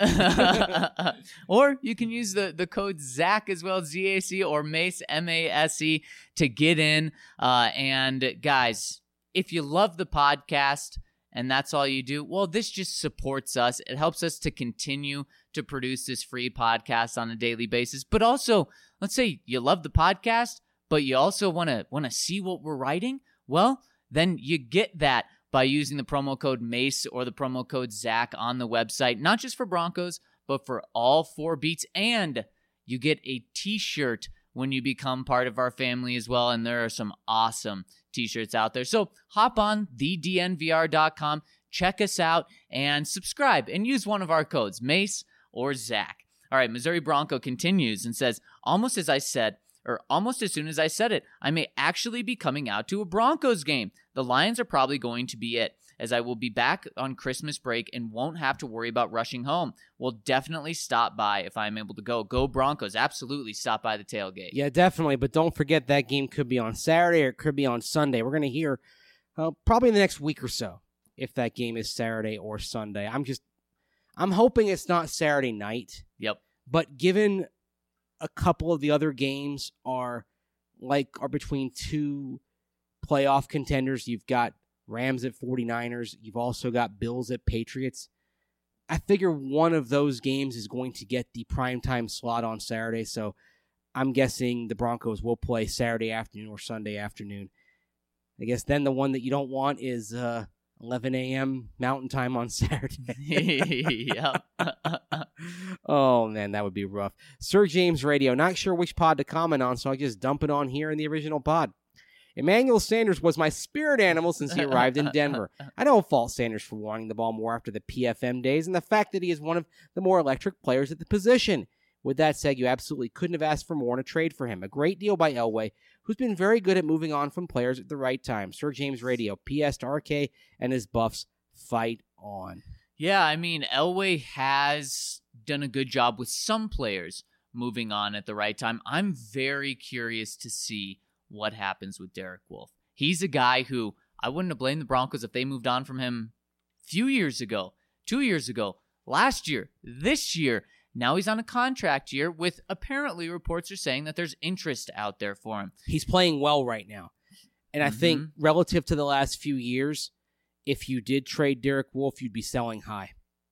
Speaker 1: or you can use the, the code ZAC as well, Z A C, or MACE, M A S E, to get in. Uh, and guys, if you love the podcast and that's all you do, well, this just supports us. It helps us to continue to produce this free podcast on a daily basis. But also, let's say you love the podcast, but you also want to want to see what we're writing. Well, then you get that by using the promo code MACE or the promo code ZAC on the website, not just for Broncos, but for all four beats. And you get a t-shirt when you become part of our family as well. And there are some awesome t-shirts out there. So hop on the D N V R dot com, check us out, and subscribe and use one of our codes, MACE or ZAC. All right, Missouri Bronco continues and says, almost as I said, or almost as soon as I said it, I may actually be coming out to a Broncos game. The Lions are probably going to be it, as I will be back on Christmas break and won't have to worry about rushing home. We'll definitely stop by if I'm able to go. Go Broncos. Absolutely stop by the tailgate.
Speaker 3: Yeah, definitely. But don't forget that game could be on Saturday or it could be on Sunday. We're going to hear uh, probably in the next week or so if that game is Saturday or Sunday. I'm just, I'm hoping it's not Saturday night.
Speaker 1: Yep.
Speaker 3: But given a couple of the other games are like are between two playoff contenders, you've got Rams at 49ers, you've also got Bills at Patriots. I figure one of those games is going to get the primetime slot on Saturday, so I'm guessing the Broncos will play Saturday afternoon or Sunday afternoon. I guess then the one that you don't want is uh, eleven a.m. Mountain Time on Saturday.
Speaker 1: Yep.
Speaker 3: Oh, man, that would be rough. Sir James Radio, not sure which pod to comment on, so I just dump it on here in the original pod. Emmanuel Sanders was my spirit animal since he arrived in Denver. I don't fault Sanders for wanting the ball more after the P F M days and the fact that he is one of the more electric players at the position. With that said, you absolutely couldn't have asked for more in a trade for him. A great deal by Elway, who's been very good at moving on from players at the right time. Sir James Radio, P S to R K and his Buffs, fight on.
Speaker 1: Yeah, I mean, Elway has done a good job with some players moving on at the right time. I'm very curious to see what happens with Derek Wolfe. He's a guy who I wouldn't have blamed the Broncos if they moved on from him a few years ago, two years ago, last year, this year. Now he's on a contract year with apparently reports are saying that there's interest out there for him.
Speaker 3: He's playing well right now. And I
Speaker 1: Mm-hmm.
Speaker 3: think relative to the last few years, if you did trade Derek Wolfe, you'd be selling high.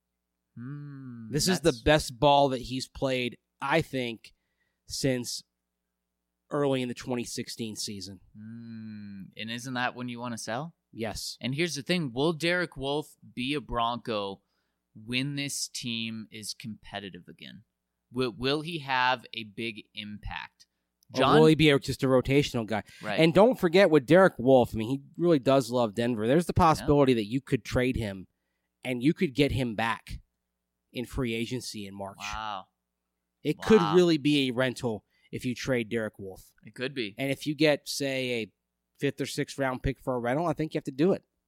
Speaker 1: Hmm,
Speaker 3: This is the
Speaker 1: that's-
Speaker 3: best ball that he's played, I think, since early in the twenty sixteen season.
Speaker 1: Hmm, and isn't that when you want to sell?
Speaker 3: Yes.
Speaker 1: And here's the thing. Will Derek Wolfe be a Bronco when this team is competitive again? Will, will he have a big impact?
Speaker 3: Or will he be a, just a rotational guy?
Speaker 1: Right.
Speaker 3: And don't forget with Derek Wolfe, I mean, he really does love Denver. There's the possibility yeah. that you could trade him and you could get him back in free agency in March.
Speaker 1: Wow.
Speaker 3: It
Speaker 1: wow.
Speaker 3: could really be a rental if you trade Derek Wolfe.
Speaker 1: It could be.
Speaker 3: And if you get, say, a fifth or sixth round pick for a rental, I think you have to do it.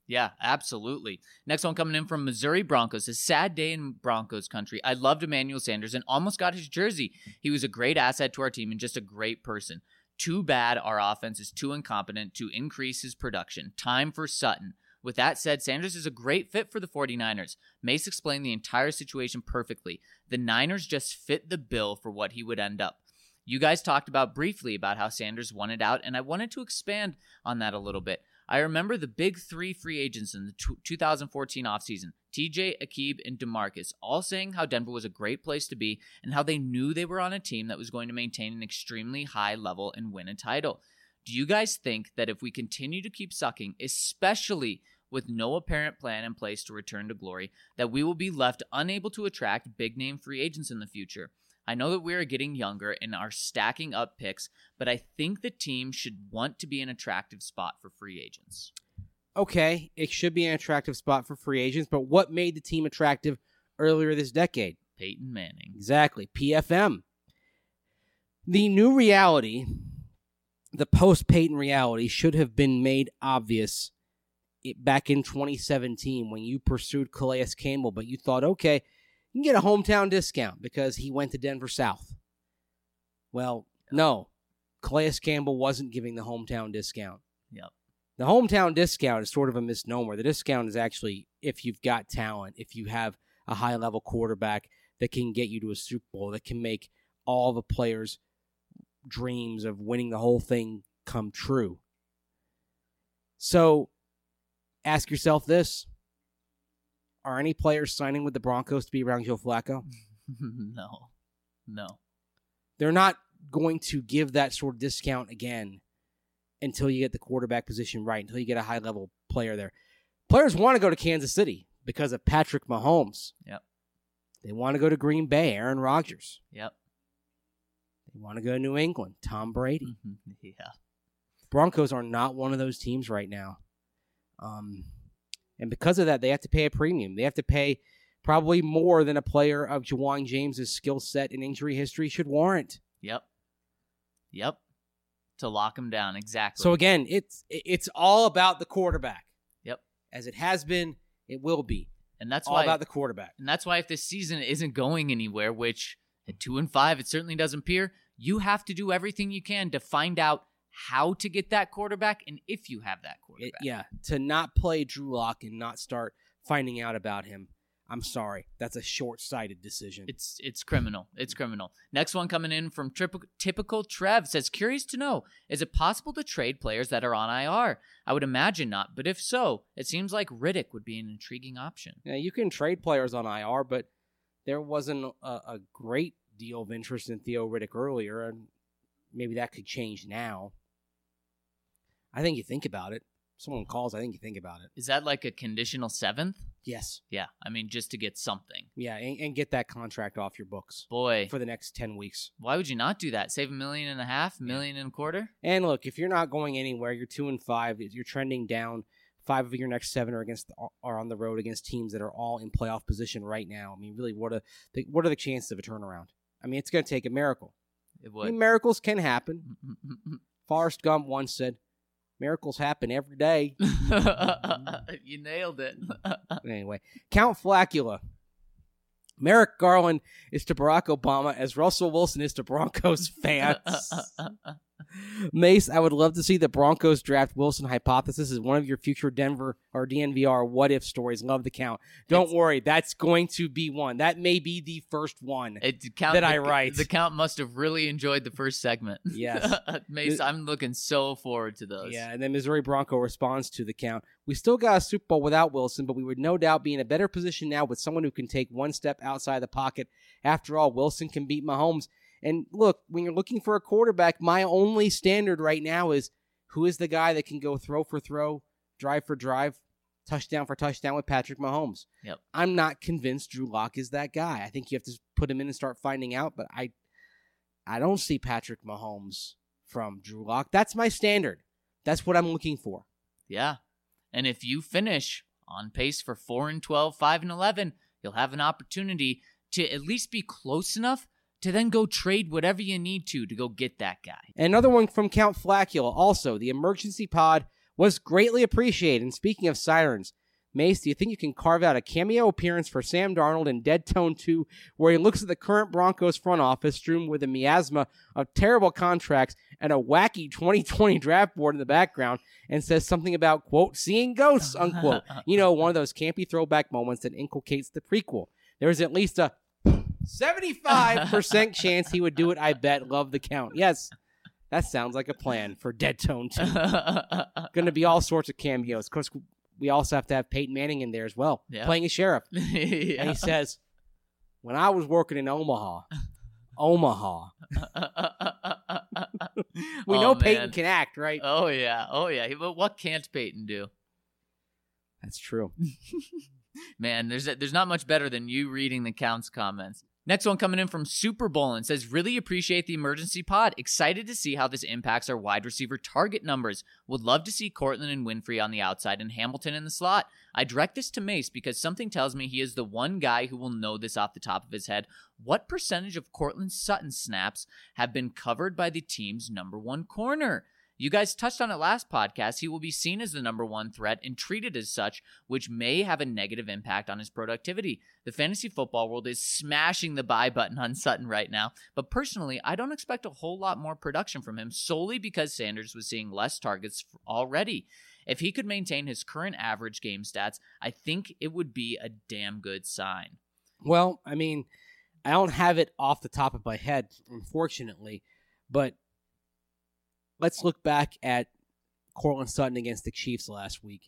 Speaker 1: Yeah, absolutely. Next one coming in from Missouri Broncos. A sad day in Broncos country. I loved Emmanuel Sanders and almost got his jersey. He was a great asset to our team and just a great person. Too bad our offense is too incompetent to increase his production. Time for Sutton. With that said, Sanders is a great fit for the 49ers. Mace explained the entire situation perfectly. The Niners just fit the bill for what he would end up. You guys talked about briefly about how Sanders wanted out, and I wanted to expand on that a little bit. I remember the big three free agents in the two thousand fourteen offseason, T J, Aqib, and DeMarcus, all saying how Denver was a great place to be and how they knew they were on a team that was going to maintain an extremely high level and win a title. Do you guys think that if we continue to keep sucking, especially with no apparent plan in place to return to glory, that we will be left unable to attract big-name free agents in the future? I know that we are getting younger and are stacking up picks, but I think the team should want to be an attractive spot for free agents.
Speaker 3: Okay, it should be an attractive spot for free agents, but what made the team attractive earlier this decade?
Speaker 1: Peyton Manning.
Speaker 3: Exactly, P F M. The new reality, the post-Peyton reality, should have been made obvious back in twenty seventeen when you pursued Calais Campbell, but you thought, okay, you can get a hometown discount because he went to Denver South. Well, no. Calais Campbell wasn't giving the hometown discount.
Speaker 1: Yep.
Speaker 3: The hometown discount is sort of a misnomer. The discount is actually if you've got talent, if you have a high-level quarterback that can get you to a Super Bowl, that can make all the players' dreams of winning the whole thing come true. So, ask yourself this. Are any players signing with the Broncos to be around Joe Flacco?
Speaker 1: No. No.
Speaker 3: They're not going to give that sort of discount again until you get the quarterback position right, until you get a high-level player there. Players want to go to Kansas City because of Patrick Mahomes.
Speaker 1: Yep.
Speaker 3: They want to go to Green Bay, Aaron Rodgers.
Speaker 1: Yep.
Speaker 3: They want to go to New England, Tom Brady.
Speaker 1: Yeah.
Speaker 3: Broncos are not one of those teams right now. Um... And because of that, they have to pay a premium. They have to pay probably more than a player of Ja'Wuan James's skill set and injury history should warrant.
Speaker 1: Yep. Yep. To lock him down, exactly.
Speaker 3: So again, it's it's all about the quarterback.
Speaker 1: Yep.
Speaker 3: As it has been, it will be.
Speaker 1: And that's
Speaker 3: all
Speaker 1: why
Speaker 3: about the quarterback.
Speaker 1: And that's why if this season isn't going anywhere, which at two and five it certainly doesn't appear, you have to do everything you can to find out how to get that quarterback and if you have that quarterback.
Speaker 3: It, yeah, to not play Drew Lock and not start finding out about him. I'm sorry. That's a short-sighted decision.
Speaker 1: It's it's criminal. It's criminal. Next one coming in from Typical, typical Trev says, curious to know, is it possible to trade players that are on I R? I would imagine not, but if so, it seems like Riddick would be an intriguing option.
Speaker 3: Yeah, you can trade players on I R, but there wasn't a, a great deal of interest in Theo Riddick earlier, and maybe that could change now. I think you think about it. Someone calls, I think you think about it.
Speaker 1: Is that like a conditional seventh?
Speaker 3: Yes.
Speaker 1: Yeah, I mean, just to get something.
Speaker 3: Yeah, and, and get that contract off your books.
Speaker 1: Boy.
Speaker 3: For the next ten weeks.
Speaker 1: Why would you not do that? Save a million and a half, million and a quarter?
Speaker 3: And look, if you're not going anywhere, you're two and five, you're trending down. Five of your next seven are against are on the road against teams that are all in playoff position right now. I mean, really, what are the, what are the chances of a turnaround? I mean, it's going to take a miracle.
Speaker 1: It would.
Speaker 3: I mean, miracles can happen. Forrest Gump once said, miracles happen every day.
Speaker 1: You nailed it.
Speaker 3: Anyway, Count Flacula. Merrick Garland is to Barack Obama as Russell Wilson is to Broncos fans. Mace, I would love to see the Broncos draft Wilson hypothesis as one of your future Denver or D N V R what-if stories. Love the count. Don't it's, worry, that's going to be one. That may be the first one
Speaker 1: it, count,
Speaker 3: that
Speaker 1: the,
Speaker 3: I write.
Speaker 1: The count must have really enjoyed the first segment.
Speaker 3: Yes.
Speaker 1: Mace, I'm looking so forward to those.
Speaker 3: Yeah, and then Missouri Bronco responds to the count. We still got a Super Bowl without Wilson, but we would no doubt be in a better position now with someone who can take one step outside the pocket. After all, Wilson can beat Mahomes. And look, when you're looking for a quarterback, my only standard right now is who is the guy that can go throw for throw, drive for drive, touchdown for touchdown with Patrick Mahomes.
Speaker 1: Yep.
Speaker 3: I'm not convinced Drew Lock is that guy. I think you have to put him in and start finding out, but I I don't see Patrick Mahomes from Drew Lock. That's my standard. That's what I'm looking for.
Speaker 1: Yeah. And if you finish on pace for four and twelve, five and eleven, you'll have an opportunity to at least be close enough to then go trade whatever you need to to go get that guy.
Speaker 3: Another one from Count Flacula. Also, the emergency pod Was greatly appreciated. And speaking of sirens, Mace, do you think you can carve out a cameo appearance for Sam Darnold in Dead Tone two, where he looks at the current Broncos front office strewn with a miasma of terrible contracts and a wacky twenty twenty draft board in the background and says something about, quote, seeing ghosts, unquote. You know, one of those campy throwback moments that inculcates the prequel. There's at least a seventy-five percent chance he would do it, I bet. Love the count. Yes, that sounds like a plan for Dead Tone two. Going to be all sorts of cameos. Of course, we also have to have Peyton Manning in there as well,
Speaker 1: yeah.
Speaker 3: playing a sheriff. Yeah. And he says, when I was working in Omaha, Omaha. we
Speaker 1: oh,
Speaker 3: know
Speaker 1: man.
Speaker 3: Peyton can act, right?
Speaker 1: Oh, yeah. Oh, yeah. But what can't Peyton do?
Speaker 3: That's true.
Speaker 1: Man, there's there's not much better than you reading the Counts comments. Next one coming in from Super Bowl and says, really appreciate the emergency pod. Excited to see how this impacts our wide receiver target numbers. Would love to see Cortland and Winfrey on the outside and Hamilton in the slot. I direct this to Mace because something tells me he is the one guy who will know this off the top of his head. What percentage of Cortland Sutton snaps have been covered by the team's number one corner? You guys touched on it last podcast. He will be seen as the number one threat and treated as such, which may have a negative impact on his productivity. The fantasy football world is smashing the buy button on Sutton right now, but personally, I don't expect a whole lot more production from him solely because Sanders was seeing less targets already. If he could maintain his current average game stats, I think it would be a damn good sign.
Speaker 3: Well, I mean, I don't have it off the top of my head, unfortunately, but let's look back at Cortland Sutton against the Chiefs last week.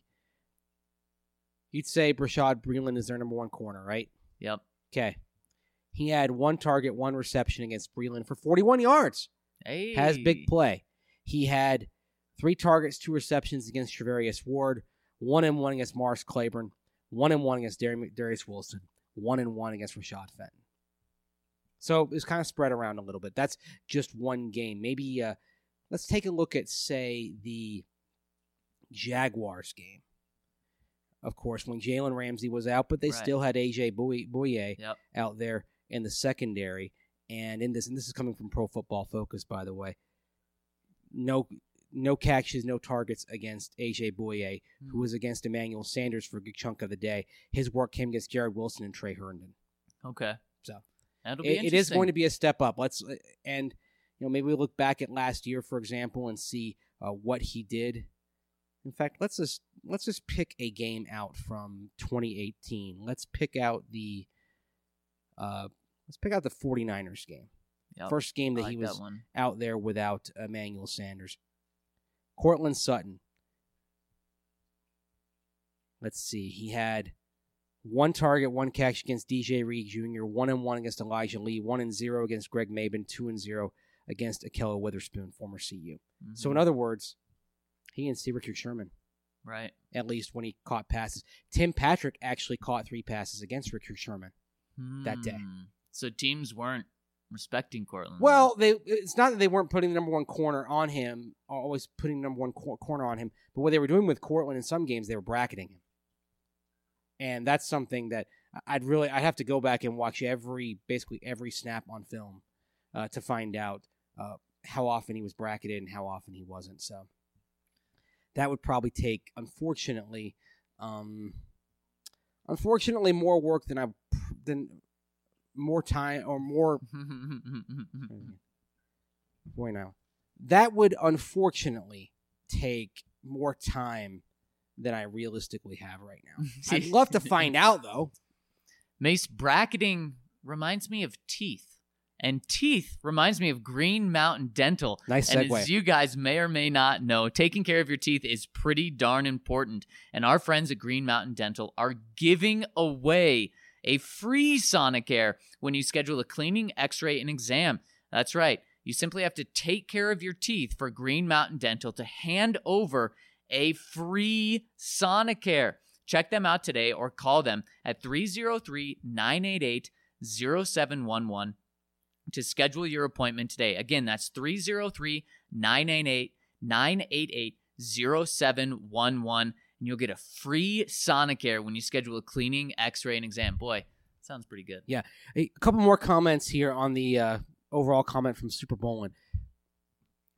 Speaker 3: You'd say Brashad Breeland is their number one corner, right?
Speaker 1: Yep.
Speaker 3: Okay. He had one target, one reception against Breeland for forty-one yards.
Speaker 1: Hey.
Speaker 3: Has big play. He had three targets, two receptions against Trevarius Ward, one and one against Morris Claiborne, one and one against Dar- Darius Wilson, one and one against Rashad Fenton. So it's kind of spread around a little bit. That's just one game. Maybe uh, let's take a look at, say, the Jaguars game. Of course, when Jalen Ramsey was out, but they
Speaker 1: right.
Speaker 3: still had A J Bouye
Speaker 1: yep.
Speaker 3: out there in the secondary. And in this, and this is coming from Pro Football Focus, by the way. No, no catches, no targets against A J Bouye, mm-hmm. who was against Emmanuel Sanders for a good chunk of the day. His work came against Jared Wilson and Trey Herndon.
Speaker 1: Okay,
Speaker 3: so
Speaker 1: that'll be
Speaker 3: it,
Speaker 1: interesting.
Speaker 3: It is going to be a step up. Let's and you know maybe we look back at last year, for example, and see uh, what he did. In fact, let's just let's just pick a game out from twenty eighteen. Let's pick out the uh, let's pick out the 49ers game.
Speaker 1: Yep.
Speaker 3: First game that
Speaker 1: like
Speaker 3: he was
Speaker 1: that
Speaker 3: out there without Emmanuel Sanders. Cortland Sutton. Let's see. He had one target, one catch against D J Reed Junior, one and one against Elijah Lee, one and zero against Greg Maben, two and zero against Ahkello Witherspoon, former C U. Mm-hmm. So in other words, he didn't see Richard Sherman.
Speaker 1: Right.
Speaker 3: At least when he caught passes. Tim Patrick actually caught three passes against Richard Sherman mm. that day.
Speaker 1: So teams weren't respecting Cortland.
Speaker 3: Well, they it's not that they weren't putting the number one corner on him, always putting the number one cor- corner on him, but what they were doing with Cortland in some games, they were bracketing him. And that's something that I'd really, I'd have to go back and watch every, basically every snap on film uh, to find out uh, how often he was bracketed and how often he wasn't. So that would probably take, unfortunately, um, unfortunately more work than I, than more time or more. Boy, now that would unfortunately take more time than I realistically have right now. I'd love to find out, though.
Speaker 1: Mace, bracketing reminds me of teeth. And teeth reminds me of Green Mountain Dental.
Speaker 3: Nice segue.
Speaker 1: And as you guys may or may not know, taking care of your teeth is pretty darn important. And our friends at Green Mountain Dental are giving away a free Sonicare when you schedule a cleaning, x-ray, and exam. That's right. You simply have to take care of your teeth for Green Mountain Dental to hand over a free Sonicare. Check them out today or call them at three oh three, nine eight eight, oh seven one one to schedule your appointment today. Again, that's three oh three, nine eight eight, nine eight eight, oh seven one one, and you'll get a free Sonicare when you schedule a cleaning, x-ray, and exam. Boy, sounds pretty good.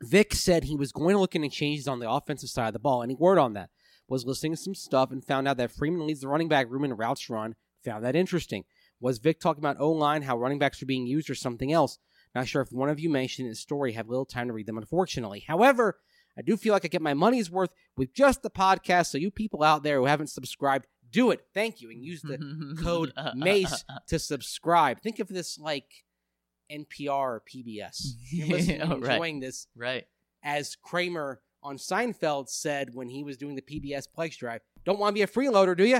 Speaker 3: Vic said he was going to look into changes on the offensive side of the ball. Any word on that? Was listening to some stuff and found out that Freeman leads the running back room in routes run. Found that interesting. Was Vic talking about O-line, how running backs are being used, or something else? Not sure if one of you mentioned in the story. Have little time to read them, unfortunately. However, I do feel like I get my money's worth with just the podcast, so you people out there who haven't subscribed, do it. Thank you. And use the code MACE to subscribe. Think of this like N P R or P B S. You're listening and enjoying
Speaker 1: right.
Speaker 3: this.
Speaker 1: Right.
Speaker 3: As Kramer on Seinfeld said when he was doing the P B S Plex Drive, don't want to be a freeloader, do you?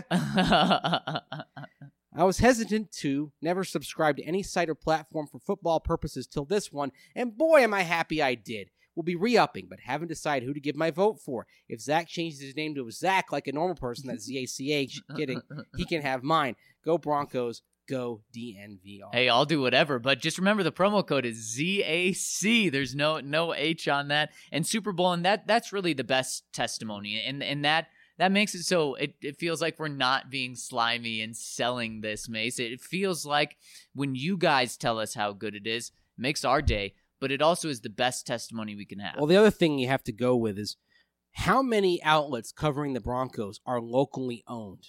Speaker 3: I was hesitant to never subscribe to any site or platform for football purposes till this one, and boy, am I happy I did. We'll be re-upping, but haven't decided who to give my vote for. If Zach changes his name to Zach like a normal person, that's Z A C H, kidding, he can have mine. Go Broncos, go D N V R.
Speaker 1: Hey, I'll do whatever, but just remember the promo code is Z A C. There's no no H on that. And Super Bowl, and that that's really the best testimony. And and that that makes it so it, it feels like we're not being slimy and selling this, Mace. It feels like when you guys tell us how good it is, it makes our day, but it also is the best testimony we can have.
Speaker 3: Well, the other thing you have to go with is how many outlets covering the Broncos are locally owned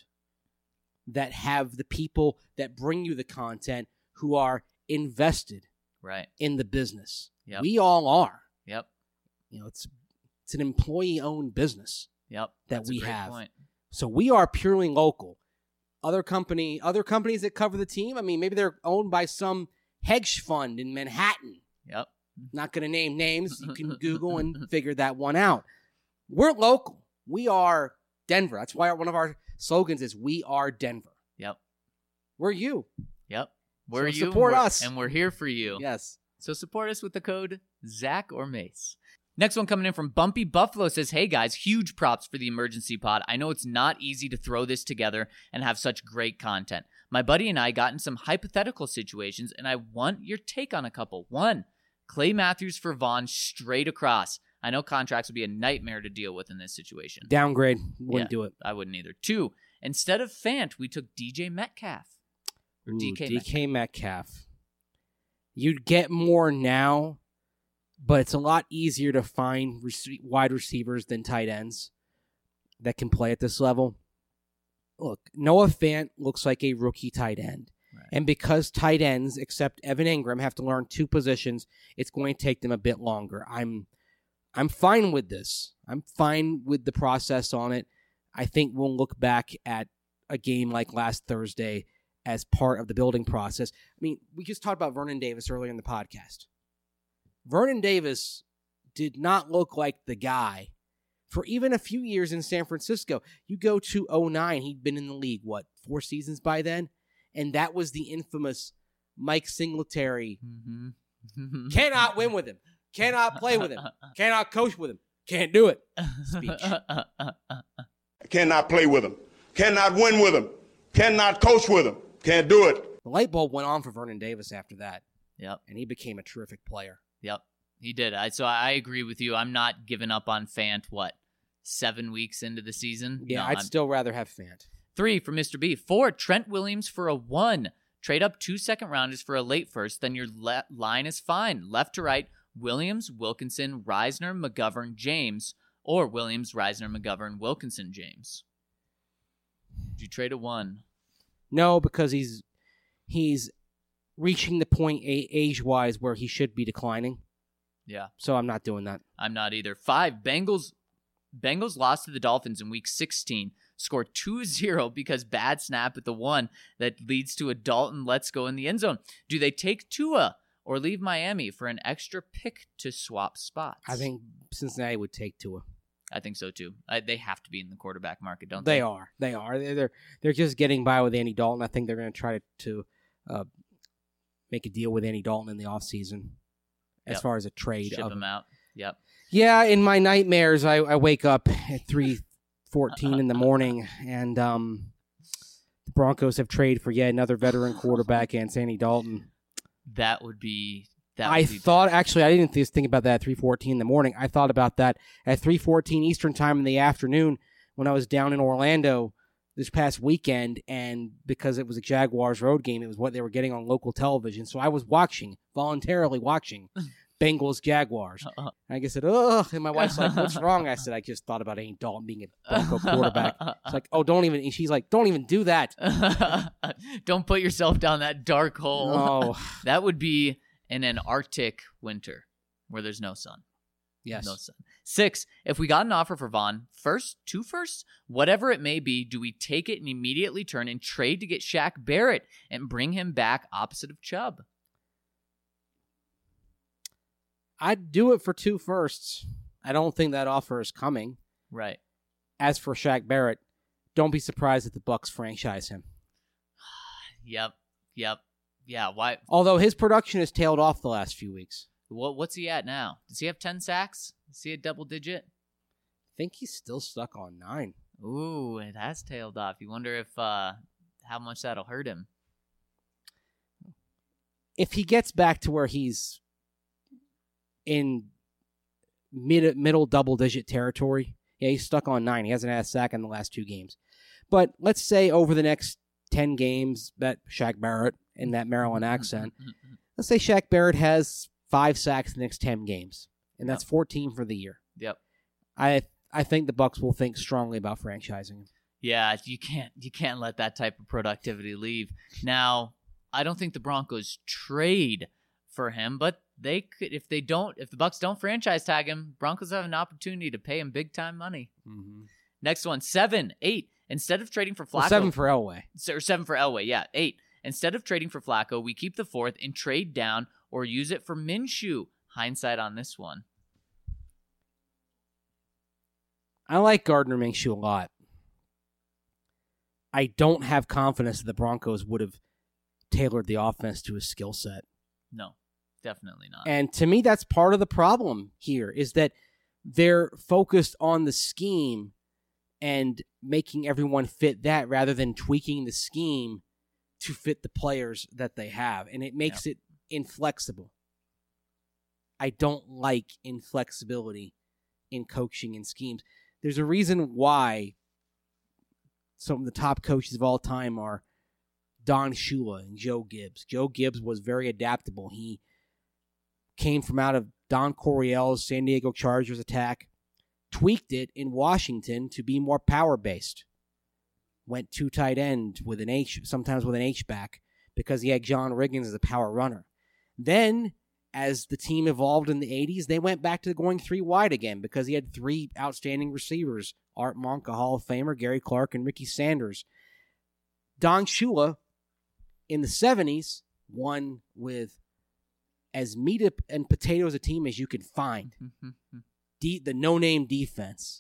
Speaker 3: that have the people that bring you the content who are invested
Speaker 1: right.
Speaker 3: in the business.
Speaker 1: Yep.
Speaker 3: We all are.
Speaker 1: Yep.
Speaker 3: You know, it's it's an employee-owned business.
Speaker 1: Yep.
Speaker 3: That
Speaker 1: That's
Speaker 3: we
Speaker 1: a great
Speaker 3: have.
Speaker 1: Point.
Speaker 3: So we are purely local. Other company, other companies that cover the team, I mean, maybe they're owned by some hedge fund in Manhattan.
Speaker 1: Yep.
Speaker 3: Not going to name names. You can Google and figure that one out. We're local. We are Denver. That's why one of our slogans is "We are Denver."
Speaker 1: Yep.
Speaker 3: We're you.
Speaker 1: Yep. We're
Speaker 3: So
Speaker 1: you.
Speaker 3: support
Speaker 1: and we're-
Speaker 3: us.
Speaker 1: And we're here for you.
Speaker 3: Yes.
Speaker 1: So support us with the code Zach or Mace. Next one coming in from Bumpy Buffalo says, hey guys, huge props for the emergency pod. I know it's not easy to throw this together and have such great content. My buddy and I got in some hypothetical situations, and I want your take on a couple. One, Clay Matthews for Vaughn straight across. I know contracts would be a nightmare to deal with in this situation.
Speaker 3: Downgrade. Wouldn't
Speaker 1: Yeah,
Speaker 3: do it.
Speaker 1: I wouldn't either. Two, instead of Fant, we took D J Metcalf. Or
Speaker 3: Ooh,
Speaker 1: D K,
Speaker 3: D K
Speaker 1: Metcalf.
Speaker 3: Metcalf. You'd get more now, but it's a lot easier to find rec- wide receivers than tight ends that can play at this level. Look, Noah Fant looks like a rookie tight end.
Speaker 1: Right.
Speaker 3: And because tight ends, except Evan Ingram, have to learn two positions, it's going to take them a bit longer. I'm I'm fine with this. I'm fine with the process on it. I think we'll look back at a game like last Thursday as part of the building process. I mean, we just talked about Vernon Davis earlier in the podcast. Vernon Davis did not look like the guy for even a few years in San Francisco. You go to oh nine, he'd been in the league, what, four seasons by then? And that was the infamous Mike Singletary.
Speaker 1: Mm-hmm.
Speaker 3: Cannot win with him. Cannot play with him. Cannot coach with him. Can't do it. Speech.
Speaker 5: Cannot play with him. Cannot win with him. Cannot coach with him. Can't do it.
Speaker 3: The light bulb went on for Vernon Davis after that,
Speaker 1: Yep.
Speaker 3: and he became a terrific player.
Speaker 1: Yep, he did. I, so I agree with you. I'm not giving up on Fant, what, seven weeks into the season?
Speaker 3: Yeah,
Speaker 1: No,
Speaker 3: I'd
Speaker 1: I'm-
Speaker 3: still rather have Fant.
Speaker 1: Three for Mister B. Four, Trent Williams for a one. Trade up two second rounders for a late first, then your le- line is fine. Left to right, Williams, Wilkinson, Reisner, McGovern, James, or Williams, Reisner, McGovern, Wilkinson, James. Did you trade a one?
Speaker 3: No, because he's he's reaching the point a- age-wise where he should be declining.
Speaker 1: Yeah.
Speaker 3: So I'm not doing that.
Speaker 1: I'm not either. Five, Bengals Bengals lost to the Dolphins in week sixteen, scored two zero because bad snap at the one that leads to a Dalton let's go in the end zone. Do they take Tua or leave Miami for an extra pick to swap spots?
Speaker 3: I think Cincinnati would take Tua.
Speaker 1: I think so too. I, they have to be in the quarterback market, don't they?
Speaker 3: They are. They are. They're they're, they're just getting by with Andy Dalton. I think they're going to try to, to uh, make a deal with Andy Dalton in the offseason as
Speaker 1: Yep.
Speaker 3: far as a trade.
Speaker 1: Ship
Speaker 3: of
Speaker 1: him out. Yep.
Speaker 3: Yeah, in my nightmares, I, I wake up at three fourteen in the morning, and um, the Broncos have traded for yet another veteran quarterback and Andy Dalton.
Speaker 1: That would be. That
Speaker 3: I
Speaker 1: would be
Speaker 3: thought, actually, I didn't just think about that at three fourteen in the morning. I thought about that at three fourteen Eastern time in the afternoon when I was down in Orlando this past weekend, and because it was a Jaguars road game, it was what they were getting on local television. So I was watching, voluntarily watching, Bengals Jaguars.
Speaker 1: Uh-uh.
Speaker 3: And I said, ugh. And my wife's like, what's wrong? I said, I just thought about Andy Dalton being a Bronco quarterback. It's like, oh, don't even. And she's like, don't even do that.
Speaker 1: Don't put yourself down that dark hole.
Speaker 3: Oh,
Speaker 1: That would be in an Arctic winter where there's no sun.
Speaker 3: yes.
Speaker 1: No sun. Six, if we got an offer for Vaughn, first, two firsts, whatever it may be, do we take it and immediately turn and trade to get Shaq Barrett and bring him back opposite of Chubb?
Speaker 3: I'd do it for two firsts. I don't think that offer is coming.
Speaker 1: Right.
Speaker 3: As for Shaq Barrett, don't be surprised if the Bucks franchise him.
Speaker 1: Yep. Yep. Yeah. Why?
Speaker 3: Although his production has tailed off the last few weeks.
Speaker 1: What? What's he at now? Does he have ten sacks? Is he a double digit?
Speaker 3: I think he's still stuck on nine.
Speaker 1: Ooh, it has tailed off. You wonder if uh, how much that'll hurt him.
Speaker 3: If he gets back to where he's in mid middle double digit territory, yeah, he's stuck on nine. He hasn't had a sack in the last two games. But let's say over the next ten games, that Shaq Barrett in that Maryland accent, let's say Shaq Barrett has five sacks in the next ten games, and that's fourteen for the year.
Speaker 1: Yep.
Speaker 3: I I think the Bucks will think strongly about franchising him.
Speaker 1: Yeah, you can't you can't let that type of productivity leave. Now, I don't think the Broncos trade for him, but they could if they don't if the Bucks don't franchise tag him, Broncos have an opportunity to pay him big time money.
Speaker 3: Mm-hmm.
Speaker 1: Next one, seven, eight. Instead of trading for Flacco,
Speaker 3: Well, seven for Elway.
Speaker 1: or seven for Elway, yeah, eight. Instead of trading for Flacco, we keep the fourth and trade down or use it for Minshew. Hindsight on this one.
Speaker 3: I like Gardner Minshew a lot. I don't have confidence that the Broncos would have tailored the offense to his skill set.
Speaker 1: No, definitely not.
Speaker 3: And to me, that's part of the problem here, is that they're focused on the scheme and making everyone fit that rather than tweaking the scheme to fit the players that they have. And it makes it inflexible. I don't like inflexibility in coaching and schemes. There's a reason why some of the top coaches of all time are Don Shula and Joe Gibbs. Joe Gibbs was very adaptable. He came from out of Don Coryell's San Diego Chargers attack, tweaked it in Washington to be more power-based. Went two tight end with an H, sometimes with an H-back, because he had John Riggins as a power runner. Then, as the team evolved in the eighties, they went back to going three wide again because he had three outstanding receivers, Art Monk, a Hall of Famer, Gary Clark, and Ricky Sanders. Don Shula, in the seventies, won with as meat and potatoes a team as you could find. De- the no-name defense.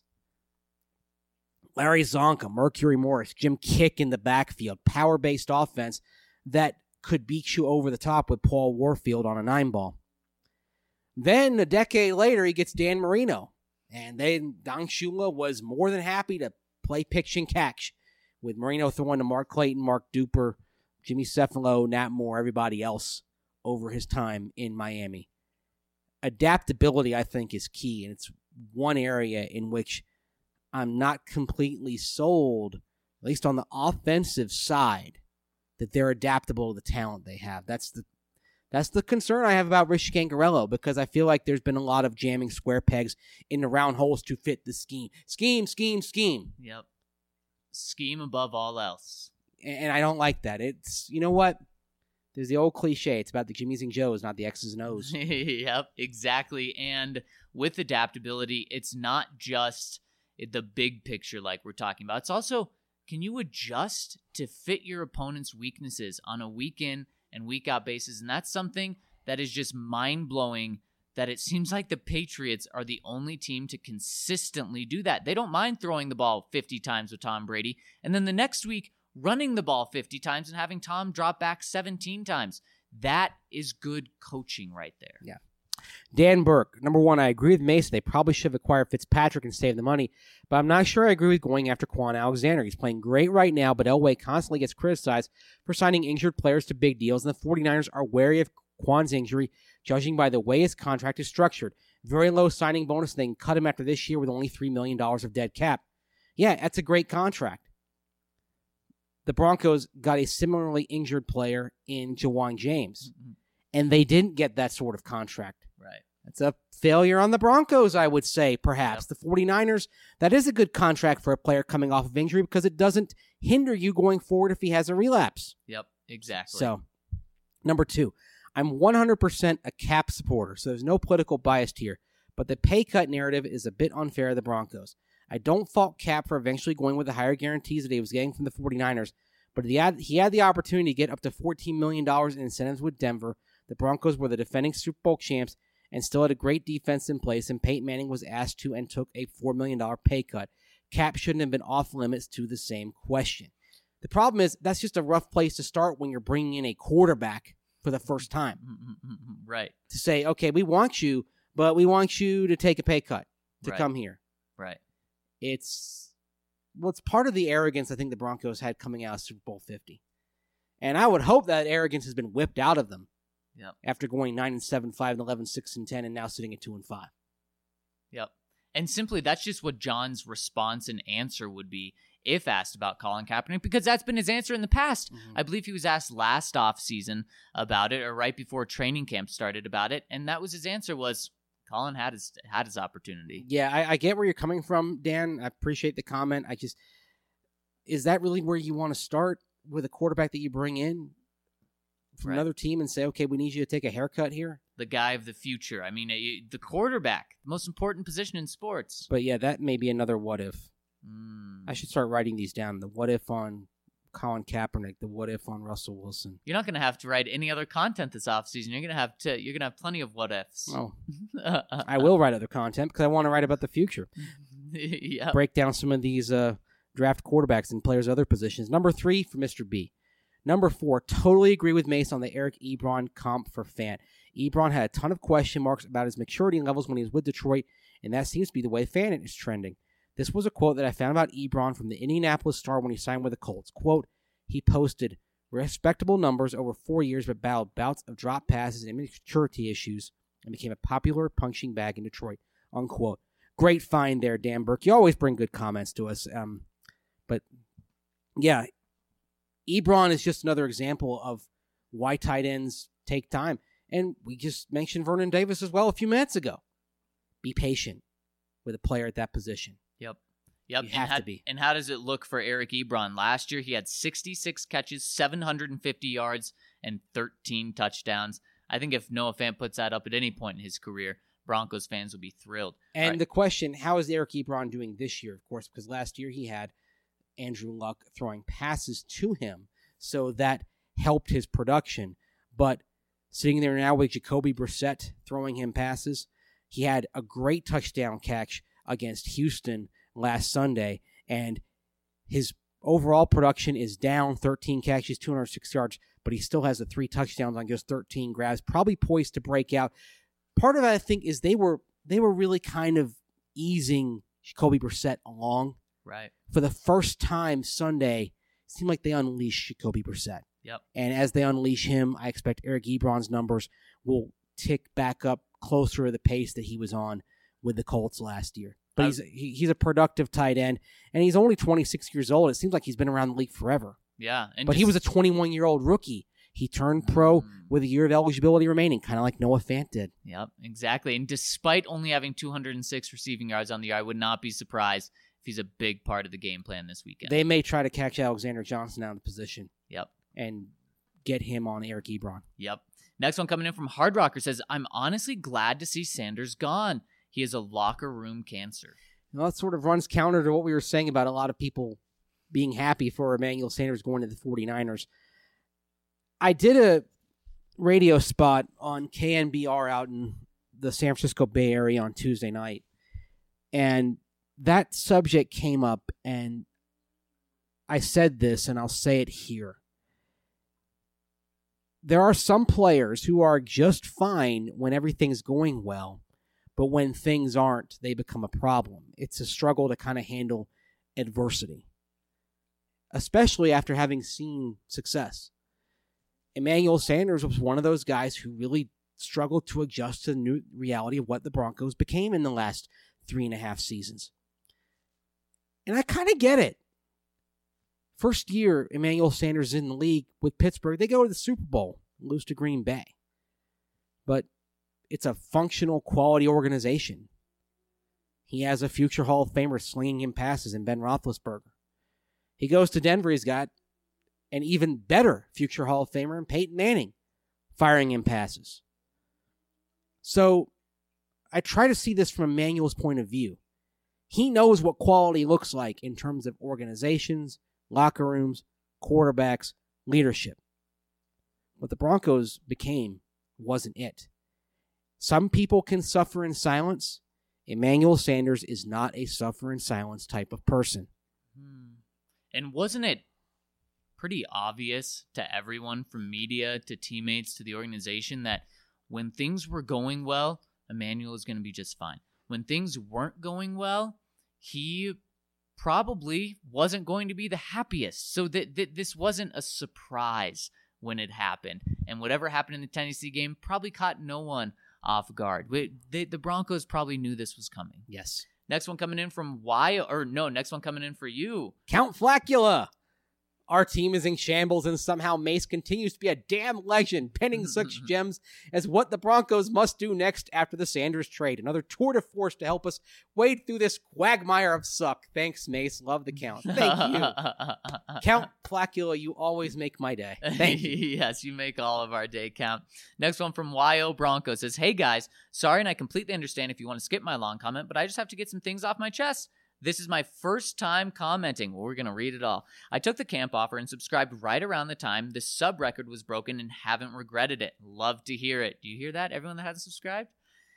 Speaker 3: Larry Zonka, Mercury Morris, Jim Kick in the backfield, power-based offense that could beat you over the top with Paul Warfield on a nine ball. Then a decade later, he gets Dan Marino, and then Don Shula was more than happy to play pitch and catch, with Marino throwing to Mark Clayton, Mark Duper, Jimmy Cefalo, Nat Moore, everybody else over his time in Miami. Adaptability, I think, is key, and it's one area in which I'm not completely sold, at least on the offensive side, that they're adaptable to the talent they have. That's the that's the concern I have about Rich Scangarello, because I feel like there's been a lot of jamming square pegs in the round holes to fit the scheme. Scheme, scheme, scheme.
Speaker 1: Yep. Scheme above all else.
Speaker 3: And I don't like that. It's, you know what? There's the old cliche. It's about the Jimmys and Joes, not the X's and O's.
Speaker 1: Yep, exactly. And with adaptability, it's not just the big picture like we're talking about. It's also, can you adjust to fit your opponent's weaknesses on a week in and week out basis? And that's something that is just mind-blowing, that it seems like the Patriots are the only team to consistently do that. They don't mind throwing the ball fifty times with Tom Brady, and then the next week running the ball fifty times and having Tom drop back seventeen times. That is good coaching right there.
Speaker 3: Yeah. Dan Burke, number one, I agree with Mason. They probably should have acquired Fitzpatrick and saved the money, but I'm not sure I agree with going after Quan Alexander. He's playing great right now, but Elway constantly gets criticized for signing injured players to big deals, and the 49ers are wary of Quan's injury, judging by the way his contract is structured. Very low signing bonus, and they can cut him after this year with only three million dollars of dead cap. Yeah, that's a great contract. The Broncos got a similarly injured player in Jawan James, mm-hmm. and they didn't get that sort of contract
Speaker 1: Right.
Speaker 3: That's a failure on the Broncos, I would say, perhaps.
Speaker 1: Yep.
Speaker 3: The 49ers, that is a good contract for a player coming off of injury because it doesn't hinder you going forward if he has a relapse.
Speaker 1: Yep, exactly.
Speaker 3: So, number two, I'm one hundred percent a Cap supporter, so there's no political bias here. But the pay cut narrative is a bit unfair to the Broncos. I don't fault Cap for eventually going with the higher guarantees that he was getting from the 49ers, but he had, he had the opportunity to get up to fourteen million dollars in incentives with Denver. The Broncos were the defending Super Bowl champs and still had a great defense in place, and Peyton Manning was asked to and took a four million dollars pay cut. Cap shouldn't have been off limits to the same question. The problem is that's just a rough place to start when you're bringing in a quarterback for the first time.
Speaker 1: Right.
Speaker 3: To say, okay, we want you, but we want you to take a pay cut to
Speaker 1: Right.
Speaker 3: come here.
Speaker 1: Right.
Speaker 3: It's, well, it's part of the arrogance I think the Broncos had coming out of Super Bowl fifty. And I would hope that arrogance has been whipped out of them.
Speaker 1: Yep.
Speaker 3: After going nine and seven, five and eleven, six and ten, and now sitting at two and five.
Speaker 1: Yep. And simply, that's just what John's response and answer would be if asked about Colin Kaepernick, because that's been his answer in the past.
Speaker 3: Mm-hmm.
Speaker 1: I believe he was asked last offseason about it, or right before training camp started about it, and that was his answer was Colin had his had his opportunity.
Speaker 3: Yeah, I, I get where you're coming from, Dan. I appreciate the comment. I just, is that really where you want to start with a quarterback that you bring in from
Speaker 1: Right.
Speaker 3: another team and say, okay, we need you to take a haircut here?
Speaker 1: The guy of the future. I mean, uh, the quarterback, the most important position in sports.
Speaker 3: But yeah, that may be another what if.
Speaker 1: Mm.
Speaker 3: I should start writing these down. The what if on Colin Kaepernick, the what if on Russell Wilson.
Speaker 1: You're not going to have to write any other content this offseason. You're going to have to. You're going to have plenty of what ifs.
Speaker 3: Oh, I will write other content because I want to write about the future.
Speaker 1: Yeah.
Speaker 3: Break down some of these uh, draft quarterbacks and players' other positions. Number three for Mister B. Number four, totally agree with Mace on the Eric Ebron comp for Fant. Ebron had a ton of question marks about his maturity levels when he was with Detroit, and that seems to be the way Fant is trending. This was a quote that I found about Ebron from the Indianapolis Star when he signed with the Colts. Quote, he posted respectable numbers over four years but battled bouts of drop passes and immaturity issues and became a popular punching bag in Detroit. Unquote. Great find there, Dan Burke. You always bring good comments to us. Um, but, yeah, Ebron is just another example of why tight ends take time. And we just mentioned Vernon Davis as well a few minutes ago. Be patient with a player at that position.
Speaker 1: Yep. Yep.
Speaker 3: You
Speaker 1: and
Speaker 3: have
Speaker 1: how,
Speaker 3: to be.
Speaker 1: And how does it look for Eric Ebron? Last year, he had sixty-six catches, seven hundred fifty yards, and thirteen touchdowns. I think if Noah Fant puts that up at any point in his career, Broncos fans will be thrilled.
Speaker 3: And
Speaker 1: Right.
Speaker 3: the question, how is Eric Ebron doing this year? Of course, because last year he had Andrew Luck throwing passes to him, so that helped his production. But sitting there now with Jacoby Brissett throwing him passes, he had a great touchdown catch against Houston last Sunday, and his overall production is down thirteen catches, two hundred six yards, but he still has the three touchdowns on just thirteen grabs, probably poised to break out. Part of it, I think, is they were they were really kind of easing Jacoby Brissett along.
Speaker 1: Right.
Speaker 3: For the first time Sunday, it seemed like they unleashed Jacoby Brissett.
Speaker 1: Yep.
Speaker 3: And as they unleash him, I expect Eric Ebron's numbers will tick back up closer to the pace that he was on with the Colts last year. But
Speaker 1: I-
Speaker 3: he's he, he's a productive tight end, and he's only twenty-six years old. It seems like he's been around the league forever.
Speaker 1: Yeah. And
Speaker 3: But he
Speaker 1: just-
Speaker 3: was a twenty-one-year-old rookie. He turned pro
Speaker 1: Mm.
Speaker 3: with a year of eligibility remaining, kind of like Noah Fant did.
Speaker 1: Yep, exactly. And despite only having two hundred six receiving yards on the year, I would not be surprised if he's a big part of the game plan this weekend.
Speaker 3: They may try to catch Alexander Johnson out of the position
Speaker 1: Yep.
Speaker 3: and get him on Eric Ebron.
Speaker 1: Yep. Next one coming in from Hard Rocker says, I'm honestly glad to see Sanders gone. He is a locker room cancer.
Speaker 3: Well, that sort of runs counter to what we were saying about a lot of people being happy for Emmanuel Sanders going to the 49ers. I did a radio spot on K N B R out in the San Francisco Bay Area on Tuesday night, and that subject came up, and I said this, and I'll say it here. There are some players who are just fine when everything's going well, but when things aren't, they become a problem. It's a struggle to kind of handle adversity, especially after having seen success. Emmanuel Sanders was one of those guys who really struggled to adjust to the new reality of what the Broncos became in the last three and a half seasons. And I kind of get it. First year Emmanuel Sanders in the league with Pittsburgh, they go to the Super Bowl, lose to Green Bay. But it's a functional, quality organization. He has a future Hall of Famer slinging him passes in Ben Roethlisberger. He goes to Denver, he's got an even better future Hall of Famer in Peyton Manning firing him passes. So I try to see this from Emmanuel's point of view. He knows what quality looks like in terms of organizations, locker rooms, quarterbacks, leadership. What the Broncos became wasn't it. Some people can suffer in silence. Emmanuel Sanders is not a suffer in silence type of person.
Speaker 1: And wasn't it pretty obvious to everyone from media to teammates to the organization that when things were going well, Emmanuel is going to be just fine. When things weren't going well, he probably wasn't going to be the happiest. So that, that this wasn't a surprise when it happened. And whatever happened in the Tennessee game probably caught no one off guard. We, they, the Broncos probably knew this was coming.
Speaker 3: Yes.
Speaker 1: Next one coming in from Y, or no, next one coming in for you.
Speaker 3: Count Flacula. Our team is in shambles, and somehow Mace continues to be a damn legend, penning such gems as what the Broncos must do next after the Sanders trade. Another tour de force to help us wade through this quagmire of suck. Thanks, Mace. Love the count. Thank you. Count Flacula, you always make my day. Thank you.
Speaker 1: Yes, you make all of our day count. Next one from Y O Bronco says, hey guys, sorry, and I completely understand if you want to skip my long comment, but I just have to get some things off my chest. This is my first time commenting. Well, we're going to read it all. I took the camp offer and subscribed right around the time the sub record was broken and haven't regretted it. Love to hear it. Do you hear that, everyone that hasn't subscribed?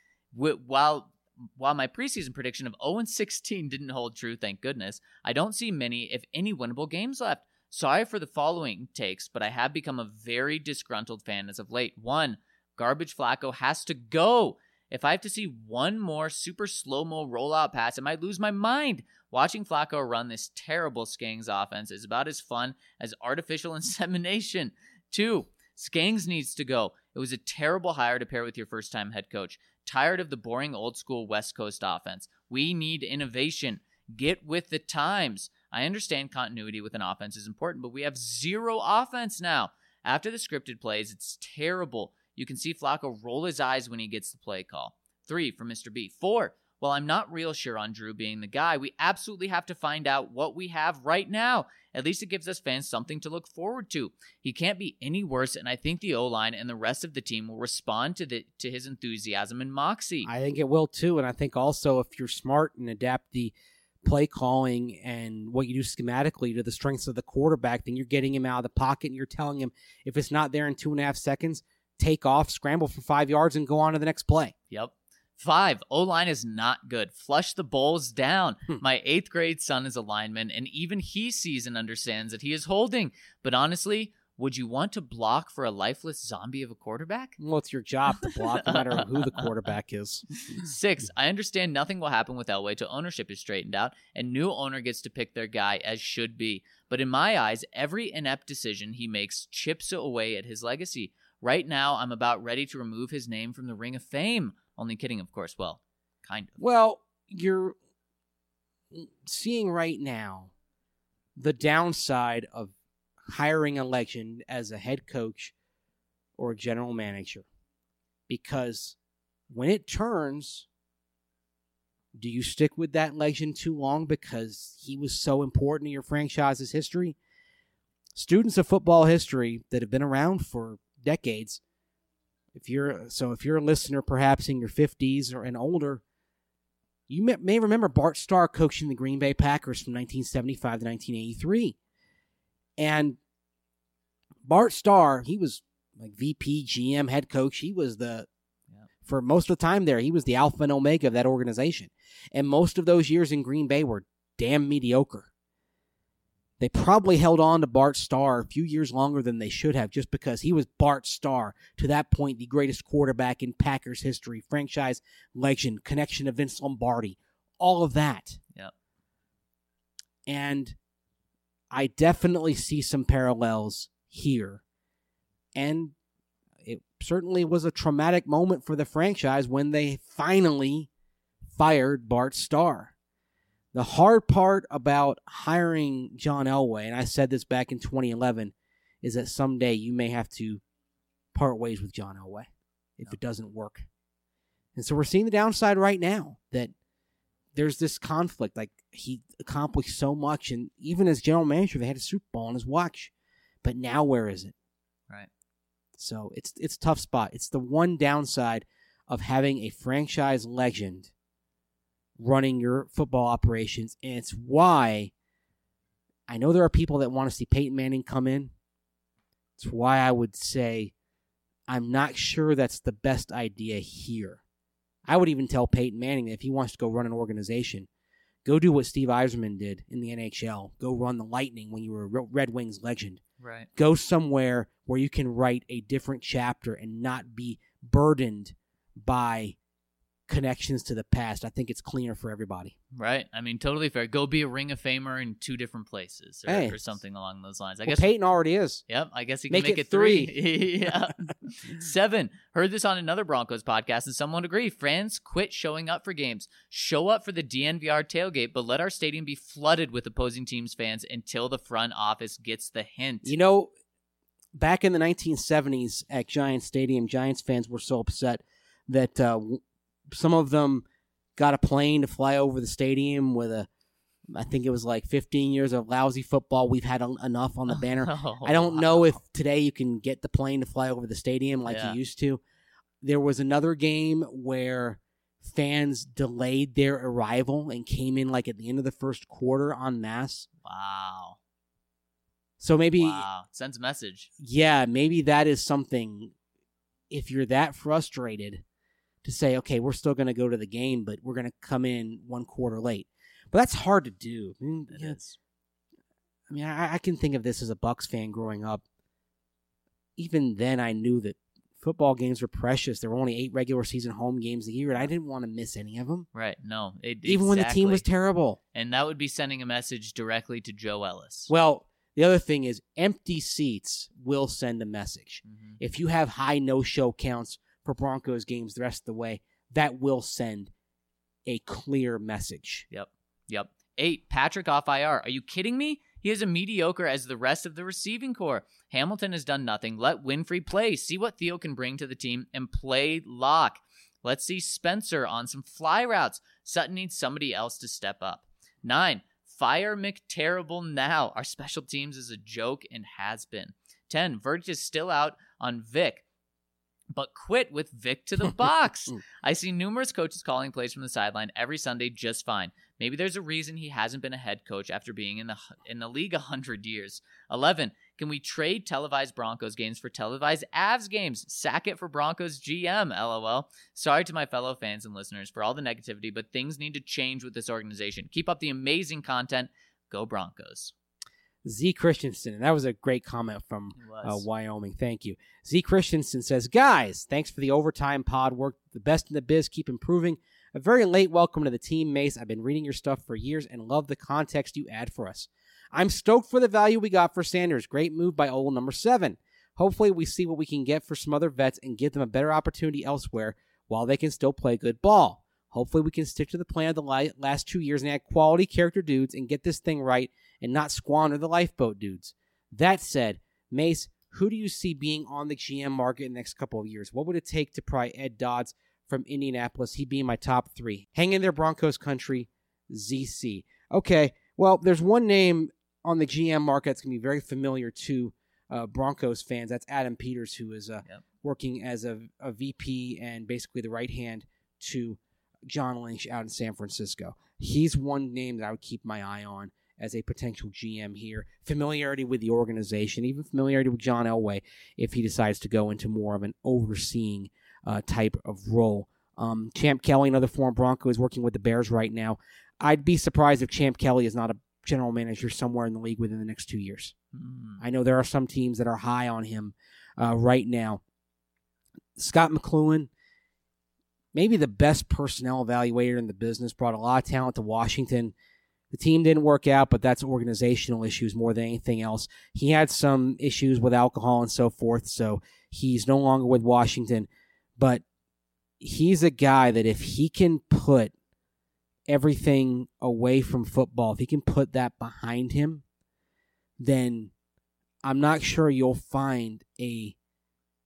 Speaker 1: While while my preseason prediction of oh and sixteen didn't hold true, thank goodness, I don't see many, if any, winnable games left. Sorry for the following takes, but I have become a very disgruntled fan as of late. One, garbage Flacco has to go. If I have to see one more super slow-mo rollout pass, I might lose my mind. Watching Flacco run this terrible Skangs offense is about as fun as artificial insemination. Two, Skangs needs to go. It was a terrible hire to pair with your first-time head coach. Tired of the boring old-school West Coast offense. We need innovation. Get with the times. I understand continuity with an offense is important, but we have zero offense now. After the scripted plays, it's terrible. You can see Flacco roll his eyes when he gets the play call. Three, from Mister B. Four, while I'm not real sure on Drew being the guy, we absolutely have to find out what we have right now. At least it gives us fans something to look forward to. He can't be any worse, and I think the O-line and the rest of the team will respond to the to his enthusiasm and moxie.
Speaker 3: I think it will too, and I think also if you're smart and adapt the play calling and what you do schematically to the strengths of the quarterback, then you're getting him out of the pocket and you're telling him if it's not there in two and a half seconds, take off, scramble for five yards, and go on to the next play.
Speaker 1: Yep. Five, O-line is not good. Flush the bowls down. Hmm. My eighth grade son is a lineman, and even he sees and understands that he is holding. But honestly, would you want to block for a lifeless zombie of a quarterback?
Speaker 3: Well, it's your job to block, no matter who the quarterback is.
Speaker 1: Six, I understand nothing will happen with Elway till ownership is straightened out, and new owner gets to pick their guy as should be. But in my eyes, every inept decision he makes chips away at his legacy. Right now, I'm about ready to remove his name from the Ring of Fame. Only kidding, of course. Well, kind of.
Speaker 3: Well, you're seeing right now the downside of hiring a legend as a head coach or a general manager. Because when it turns, do you stick with that legend too long because he was so important to your franchise's history? Students of football history that have been around for decades, if you're so if you're a listener perhaps in your fifties or and older, you may, may remember Bart Starr coaching the Green Bay Packers from nineteen seventy-five to nineteen eighty-three. And Bart Starr, he was like V P, G M, head coach. He was the, yeah. for most of the time there, he was the alpha and omega of that organization. And most of those years in Green Bay were damn mediocre. They probably held on to Bart Starr a few years longer than they should have just because he was Bart Starr, to that point the greatest quarterback in Packers history, franchise legend, connection to Vince Lombardi, all of that.
Speaker 1: Yep.
Speaker 3: And I definitely see some parallels here. And it certainly was a traumatic moment for the franchise when they finally fired Bart Starr. The hard part about hiring John Elway, and I said this back in twenty eleven, is that someday you may have to part ways with John Elway if
Speaker 1: no.
Speaker 3: it doesn't work. And so we're seeing the downside right now that there's this conflict. Like, he accomplished so much, and even as general manager, they had a Super Bowl on his watch. But now where is it?
Speaker 1: Right.
Speaker 3: So it's it's a tough spot. It's the one downside of having a franchise legend running your football operations, and it's why I know there are people that want to see Peyton Manning come in. It's why I would say I'm not sure that's the best idea here. I would even tell Peyton Manning that if he wants to go run an organization, go do what Steve Yzerman did in the N H L. Go run the Lightning when you were a Red Wings legend.
Speaker 1: Right.
Speaker 3: Go somewhere where you can write a different chapter and not be burdened by connections to the past. I think it's cleaner for everybody.
Speaker 1: Right. I mean, totally fair. Go be a Ring of Famer in two different places or,
Speaker 3: Hey.
Speaker 1: or something along those lines. I
Speaker 3: Well,
Speaker 1: guess
Speaker 3: Peyton already is.
Speaker 1: Yep, I guess he can
Speaker 3: Make
Speaker 1: make,
Speaker 3: it
Speaker 1: it three. yeah. Seven. Heard this on another Broncos podcast, and someone agreed. Fans quit showing up for games. Show up for the D N V R tailgate, but let our stadium be flooded with opposing teams' fans until the front office gets the hint.
Speaker 3: You know, back in the nineteen seventies at Giants Stadium, Giants fans were so upset that uh, some of them got a plane to fly over the stadium with a, I think it was like fifteen years of lousy football. We've had en- enough on the banner.
Speaker 1: Oh,
Speaker 3: I don't
Speaker 1: wow.
Speaker 3: know if today you can get the plane to fly over the stadium like
Speaker 1: Yeah.
Speaker 3: you used to. There was another game where fans delayed their arrival and came in like at the end of the first quarter en masse.
Speaker 1: Wow.
Speaker 3: So maybe,
Speaker 1: Wow. Sends a message.
Speaker 3: yeah, maybe that is something, if you're that frustrated, to say, okay, we're still going to go to the game, but we're going to come in one quarter late. But that's hard to do. I mean,
Speaker 1: It
Speaker 3: yeah,
Speaker 1: is.
Speaker 3: I mean, I, I can think of this as a Bucs fan growing up. Even then, I knew that football games were precious. There were only eight regular season home games a year, and I didn't want to miss any of them.
Speaker 1: Right. No. It,
Speaker 3: Even when the team was
Speaker 1: exactly.
Speaker 3: terrible.
Speaker 1: And that would be sending a message directly to Joe Ellis.
Speaker 3: Well, the other thing is empty seats will send a message.
Speaker 1: Mhm.
Speaker 3: If you have high no-show counts for Broncos games the rest of the way, that will send a clear message.
Speaker 1: Yep. Yep. Eight, Patrick off I R. Are you kidding me? He is as mediocre as the rest of the receiving core. Hamilton has done nothing. Let Winfrey play. See what Theo can bring to the team and play lock. Let's see Spencer on some fly routes. Sutton needs somebody else to step up. Nine, fire McTerrible now. Our special teams is a joke and has been. Ten, Verge is still out on Vic, but quit with Vic to the box. I see numerous coaches calling plays from the sideline every Sunday just fine. Maybe there's a reason he hasn't been a head coach after being in the in the league a hundred years. Eleven. Can we trade televised Broncos games for televised Avs games? Sack it for Broncos G M. LOL. Sorry to my fellow fans and listeners for all the negativity, but things need to change with this organization. Keep up the amazing content. Go Broncos.
Speaker 3: Z Christensen, and that was a great comment from
Speaker 1: It
Speaker 3: uh,
Speaker 1: was.
Speaker 3: Wyoming. Thank you. Z Christensen says, guys, thanks for the overtime pod work. The best in the biz. Keep improving. A very late welcome to the team, Mace. I've been reading your stuff for years and love the context you add for us. I'm stoked for the value we got for Sanders. Great move by Ole number seven. Hopefully we see what we can get for some other vets and give them a better opportunity elsewhere while they can still play good ball. Hopefully we can stick to the plan of the li- last two years and add quality character dudes and get this thing right and not squander the lifeboat dudes. That said, Mace, who do you see being on the G M market in the next couple of years? What would it take to pry Ed Dodds from Indianapolis? He'd be in my top three. Hang in there, Broncos country, Z C. Okay, well, there's one name on the G M market that's going to be very familiar to uh, Broncos fans. That's Adam Peters, who is uh,
Speaker 1: Yep.
Speaker 3: working as a, a V P and basically the right hand to John Lynch out in San Francisco. He's one name that I would keep my eye on as a potential G M here. Familiarity with the organization, even familiarity with John Elway if he decides to go into more of an overseeing uh, type of role. Um, Champ Kelly, another former Bronco, is working with the Bears right now. I'd be surprised if Champ Kelly is not a general manager somewhere in the league within the next two years.
Speaker 1: Mm.
Speaker 3: I know there are some teams that are high on him uh, right now. Scott McLuhan, maybe the best personnel evaluator in the business, brought a lot of talent to Washington. The team didn't work out, but that's organizational issues more than anything else. He had some issues with alcohol and so forth, so he's no longer with Washington. But he's a guy that if he can put everything away from football, if he can put that behind him, then I'm not sure you'll find a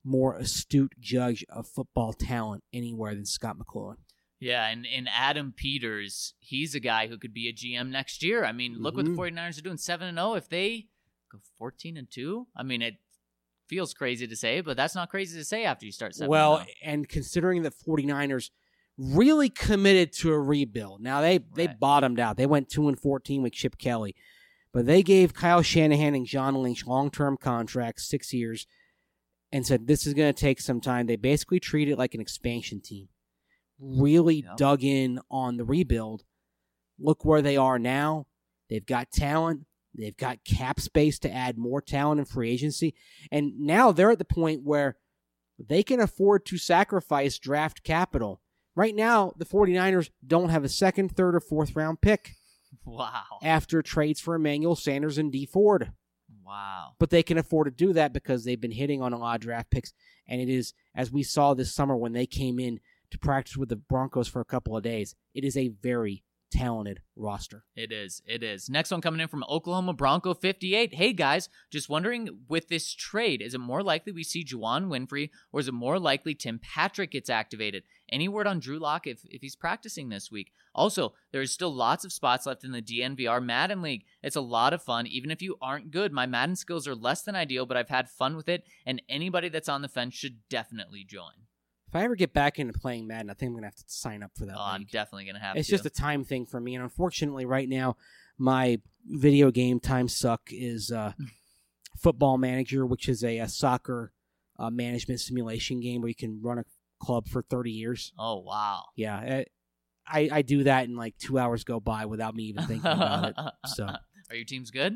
Speaker 3: more astute judge of football talent anywhere than Scott McCloughan.
Speaker 1: Yeah, and, and Adam Peters, he's a guy who could be a G M next year. I mean, look
Speaker 3: Mm-hmm.
Speaker 1: what the 49ers are doing, seven and oh. If they go fourteen and two, I mean, it feels crazy to say, but that's not crazy to say after you start seven
Speaker 3: Well,
Speaker 1: and oh.
Speaker 3: and considering the 49ers really committed to a rebuild. Now, they, they
Speaker 1: Right.
Speaker 3: bottomed out. They went two and fourteen with Chip Kelly. But they gave Kyle Shanahan and John Lynch long-term contracts, six years, and said this is going to take some time. They basically treat it like an expansion team. Really
Speaker 1: Yep.
Speaker 3: dug in on the rebuild. Look where they are now. They've got talent. They've got cap space to add more talent in free agency. And now they're at the point where they can afford to sacrifice draft capital. Right now, the 49ers don't have a second, third, or fourth round pick
Speaker 1: Wow.
Speaker 3: after trades for Emmanuel Sanders and Dee Ford.
Speaker 1: Wow.
Speaker 3: But they can afford to do that because they've been hitting on a lot of draft picks. And it is, as we saw this summer when they came in to practice with the Broncos for a couple of days, it is a very talented roster.
Speaker 1: It is. It is. Next one coming in from Oklahoma Bronco fifty-eight. Hey, guys, just wondering, with this trade, is it more likely we see Juwan Winfrey, or is it more likely Tim Patrick gets activated? Any word on Drew Lock if, if he's practicing this week? Also, there is still lots of spots left in the D N V R Madden League. It's a lot of fun, even if you aren't good. My Madden skills are less than ideal, but I've had fun with it, and anybody that's on the fence should definitely join.
Speaker 3: If I ever get back into playing Madden, I think I'm going to have to sign up for that
Speaker 1: Oh, I'm
Speaker 3: league.
Speaker 1: definitely going to have
Speaker 3: It's
Speaker 1: to.
Speaker 3: just a time thing for me. And unfortunately, right now, my video game time suck is uh, Football Manager, which is a, a soccer uh, management simulation game where you can run a club for thirty years.
Speaker 1: Oh, wow.
Speaker 3: Yeah, it, I, I do that and like two hours go by without me even thinking about it. So,
Speaker 1: Are your teams good?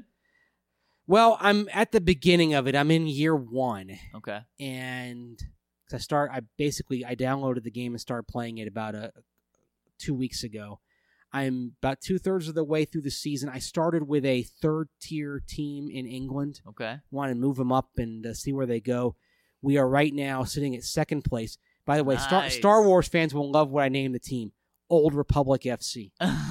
Speaker 3: well, I'm at the beginning of it. I'm in year one,
Speaker 1: Okay.
Speaker 3: and 'cause I start. I basically I downloaded the game and started playing it about a two weeks ago. I'm about two thirds of the way through the season. I started with a third tier team in England.
Speaker 1: Okay.
Speaker 3: Want to move them up and uh, see where they go. We are right now sitting at second place. By the way, Star,
Speaker 1: Nice.
Speaker 3: Star Wars fans will love what I named the team: Old Republic F C.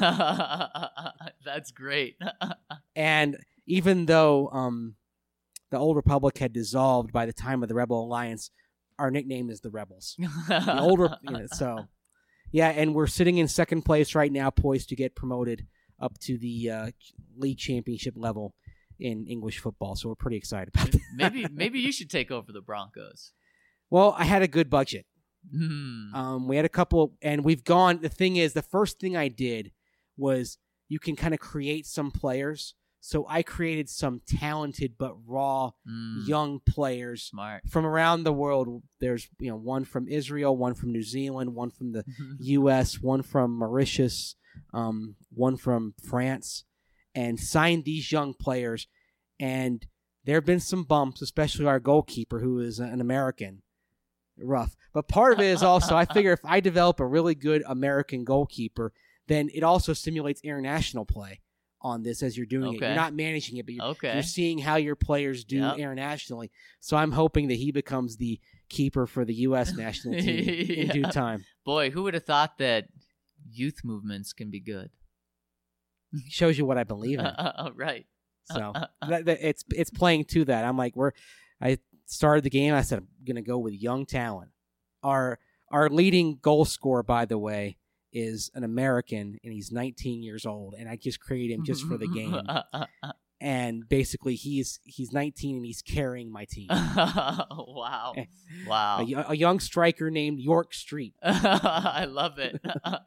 Speaker 1: That's great.
Speaker 3: And even though um, the Old Republic had dissolved by the time of the Rebel Alliance, our nickname is the Rebels. The older, you know, so yeah, and we're sitting in second place right now, poised to get promoted up to the uh, league championship level in English football. So we're pretty excited about that.
Speaker 1: maybe maybe you should take over the Broncos.
Speaker 3: Well, I had a good budget.
Speaker 1: Hmm.
Speaker 3: Um, we had a couple, and we've gone. The thing is, the first thing I did was you can kind of create some players. So I created some talented but raw
Speaker 1: Mm,
Speaker 3: young players
Speaker 1: smart.
Speaker 3: from around the world. There's you know one from Israel, one from New Zealand, one from the U S, one from Mauritius, um, one from France, and signed these young players. And there have been some bumps, especially our goalkeeper, who is an American. Rough. But part of it is also, I figure if I develop a really good American goalkeeper, then it also stimulates international play on this as you're doing it.
Speaker 1: Okay.
Speaker 3: You're not managing it, but you're,
Speaker 1: Okay.
Speaker 3: you're seeing how your players do
Speaker 1: Yep.
Speaker 3: internationally. So I'm hoping that he becomes the keeper for the U S national team in due
Speaker 1: Yeah.
Speaker 3: time.
Speaker 1: Boy, who would have thought that youth movements can be good?
Speaker 3: Shows you what I believe in.
Speaker 1: Right.
Speaker 3: So that, that, it's it's playing to that. I'm like, we're. I started the game. I said I'm gonna go with young talent. Our our leading goal scorer, by the way, is an American, and he's nineteen years old. And I just created him just for the game. And basically, he's he's nineteen and he's carrying my team.
Speaker 1: Wow. Wow.
Speaker 3: A, y- a young striker named York Street.
Speaker 1: I love it.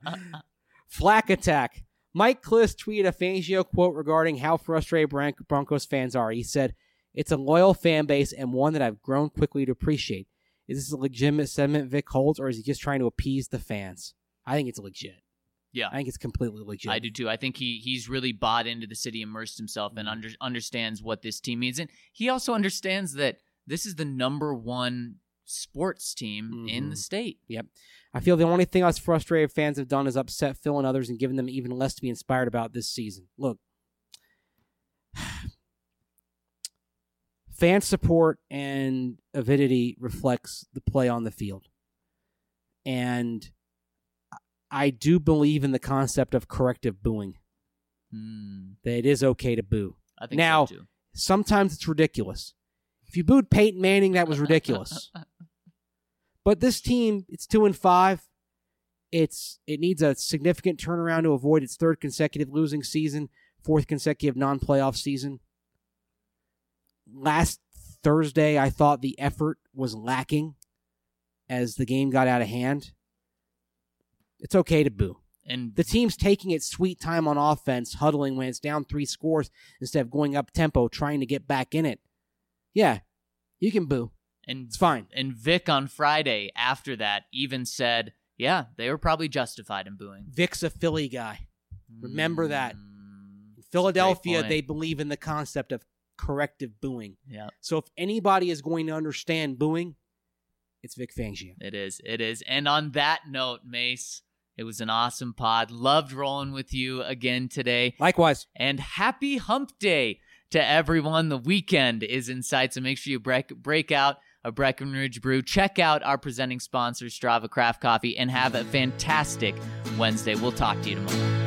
Speaker 3: Flack attack. Mike Kliss tweeted a Fangio quote regarding how frustrated Bron- Broncos fans are. He said, "It's a loyal fan base and one that I've grown quickly to appreciate. Is this a legitimate sentiment Vic holds, or is he just trying to appease the fans?" I think it's legit.
Speaker 1: Yeah.
Speaker 3: I think it's completely legit.
Speaker 1: I do too. I think he he's really bought into the city, immersed himself, and under, understands what this team means. And he also understands that this is the number one sports team in
Speaker 3: Mhm.
Speaker 1: the state.
Speaker 3: Yep. I feel the only thing us frustrated fans have done is upset Phil and others and given them even less to be inspired about this season. Look, fan support and avidity reflects the play on the field. And I do believe in the concept of corrective booing,
Speaker 1: Hmm.
Speaker 3: that it is okay to boo.
Speaker 1: I think
Speaker 3: Now-
Speaker 1: so too.
Speaker 3: Sometimes it's ridiculous. If you booed Peyton Manning, that was ridiculous. But this team, it's two and five. It's it needs a significant turnaround to avoid its third consecutive losing season, fourth consecutive non-playoff season. Last Thursday, I thought the effort was lacking as the game got out of hand. It's okay to boo.
Speaker 1: And
Speaker 3: the team's taking its sweet time on offense, huddling when it's down three scores instead of going up tempo, trying to get back in it. Yeah, you can boo.
Speaker 1: And
Speaker 3: it's fine.
Speaker 1: And Vic on Friday after that even said, yeah, they were probably justified in booing.
Speaker 3: Vic's a Philly guy. Remember
Speaker 1: mm,
Speaker 3: that. In Philadelphia, they believe in the concept of corrective booing.
Speaker 1: Yeah.
Speaker 3: So if anybody is going to understand booing, it's Vic Fangio.
Speaker 1: It is. It is. And on that note, Mace, it was an awesome pod. Loved rolling with you again today.
Speaker 3: Likewise.
Speaker 1: And happy hump day to everyone. The weekend is in sight, so make sure you break, break out a Breckenridge brew. Check out our presenting sponsor, Strava Craft Coffee, and have a fantastic Wednesday. We'll talk to you tomorrow.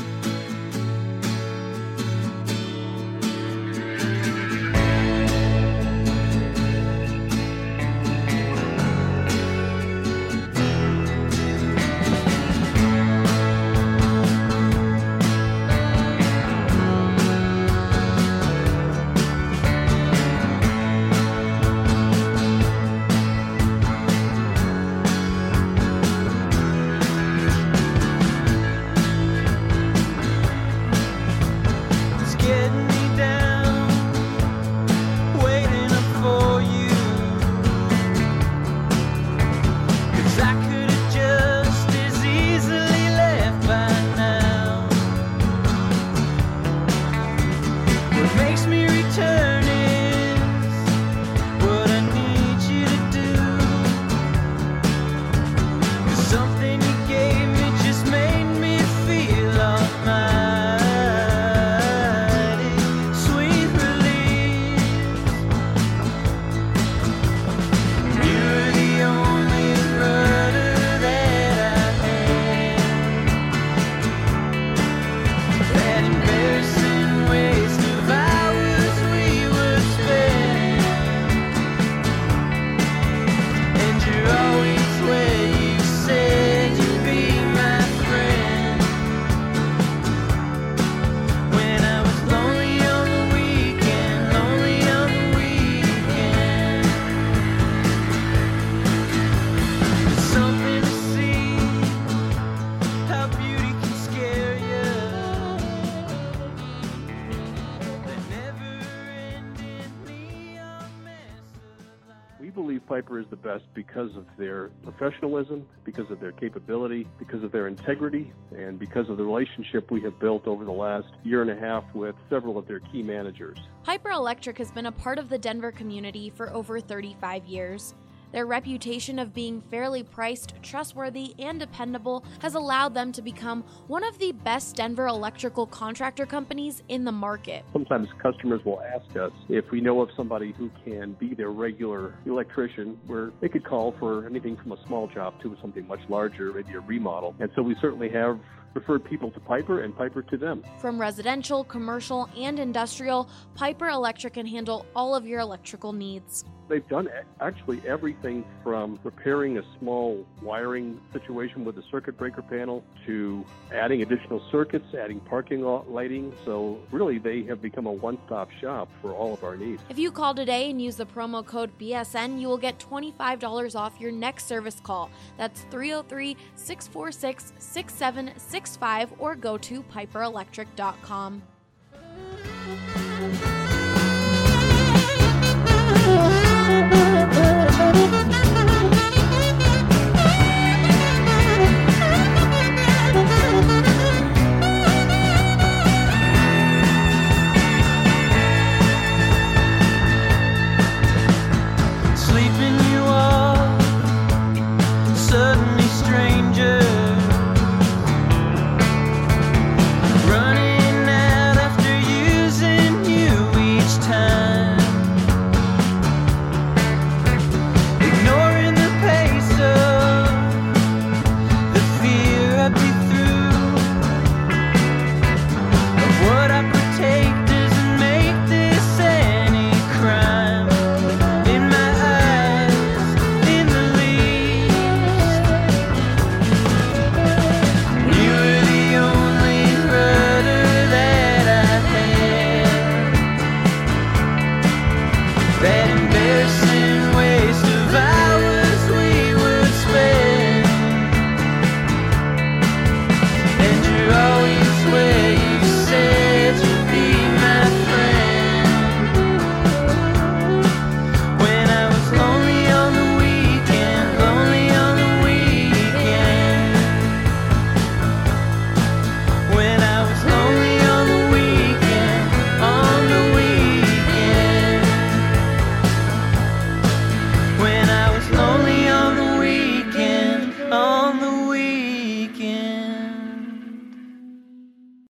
Speaker 6: Piper is the best because of their professionalism, because of their capability, because of their integrity, and because of the relationship we have built over the last year and a half with several of their key managers.
Speaker 7: Piper Electric has been a part of the Denver community for over thirty-five years. Their reputation of being fairly priced, trustworthy, and dependable has allowed them to become one of the best Denver electrical contractor companies in the market.
Speaker 6: Sometimes customers will ask us if we know of somebody who can be their regular electrician, where they could call for anything from a small job to something much larger, maybe a remodel. And so we certainly have referred people to Piper and Piper to them.
Speaker 7: From residential, commercial, and industrial, Piper Electric can handle all of your electrical needs.
Speaker 6: They've done actually everything from repairing a small wiring situation with a circuit breaker panel to adding additional circuits, adding parking lot lighting. So really, they have become a one-stop shop for all of our needs.
Speaker 7: If you call today and use the promo code B S N, you will get twenty-five dollars off your next service call. That's three oh three, six four six, six seven six five or go to piper electric dot com.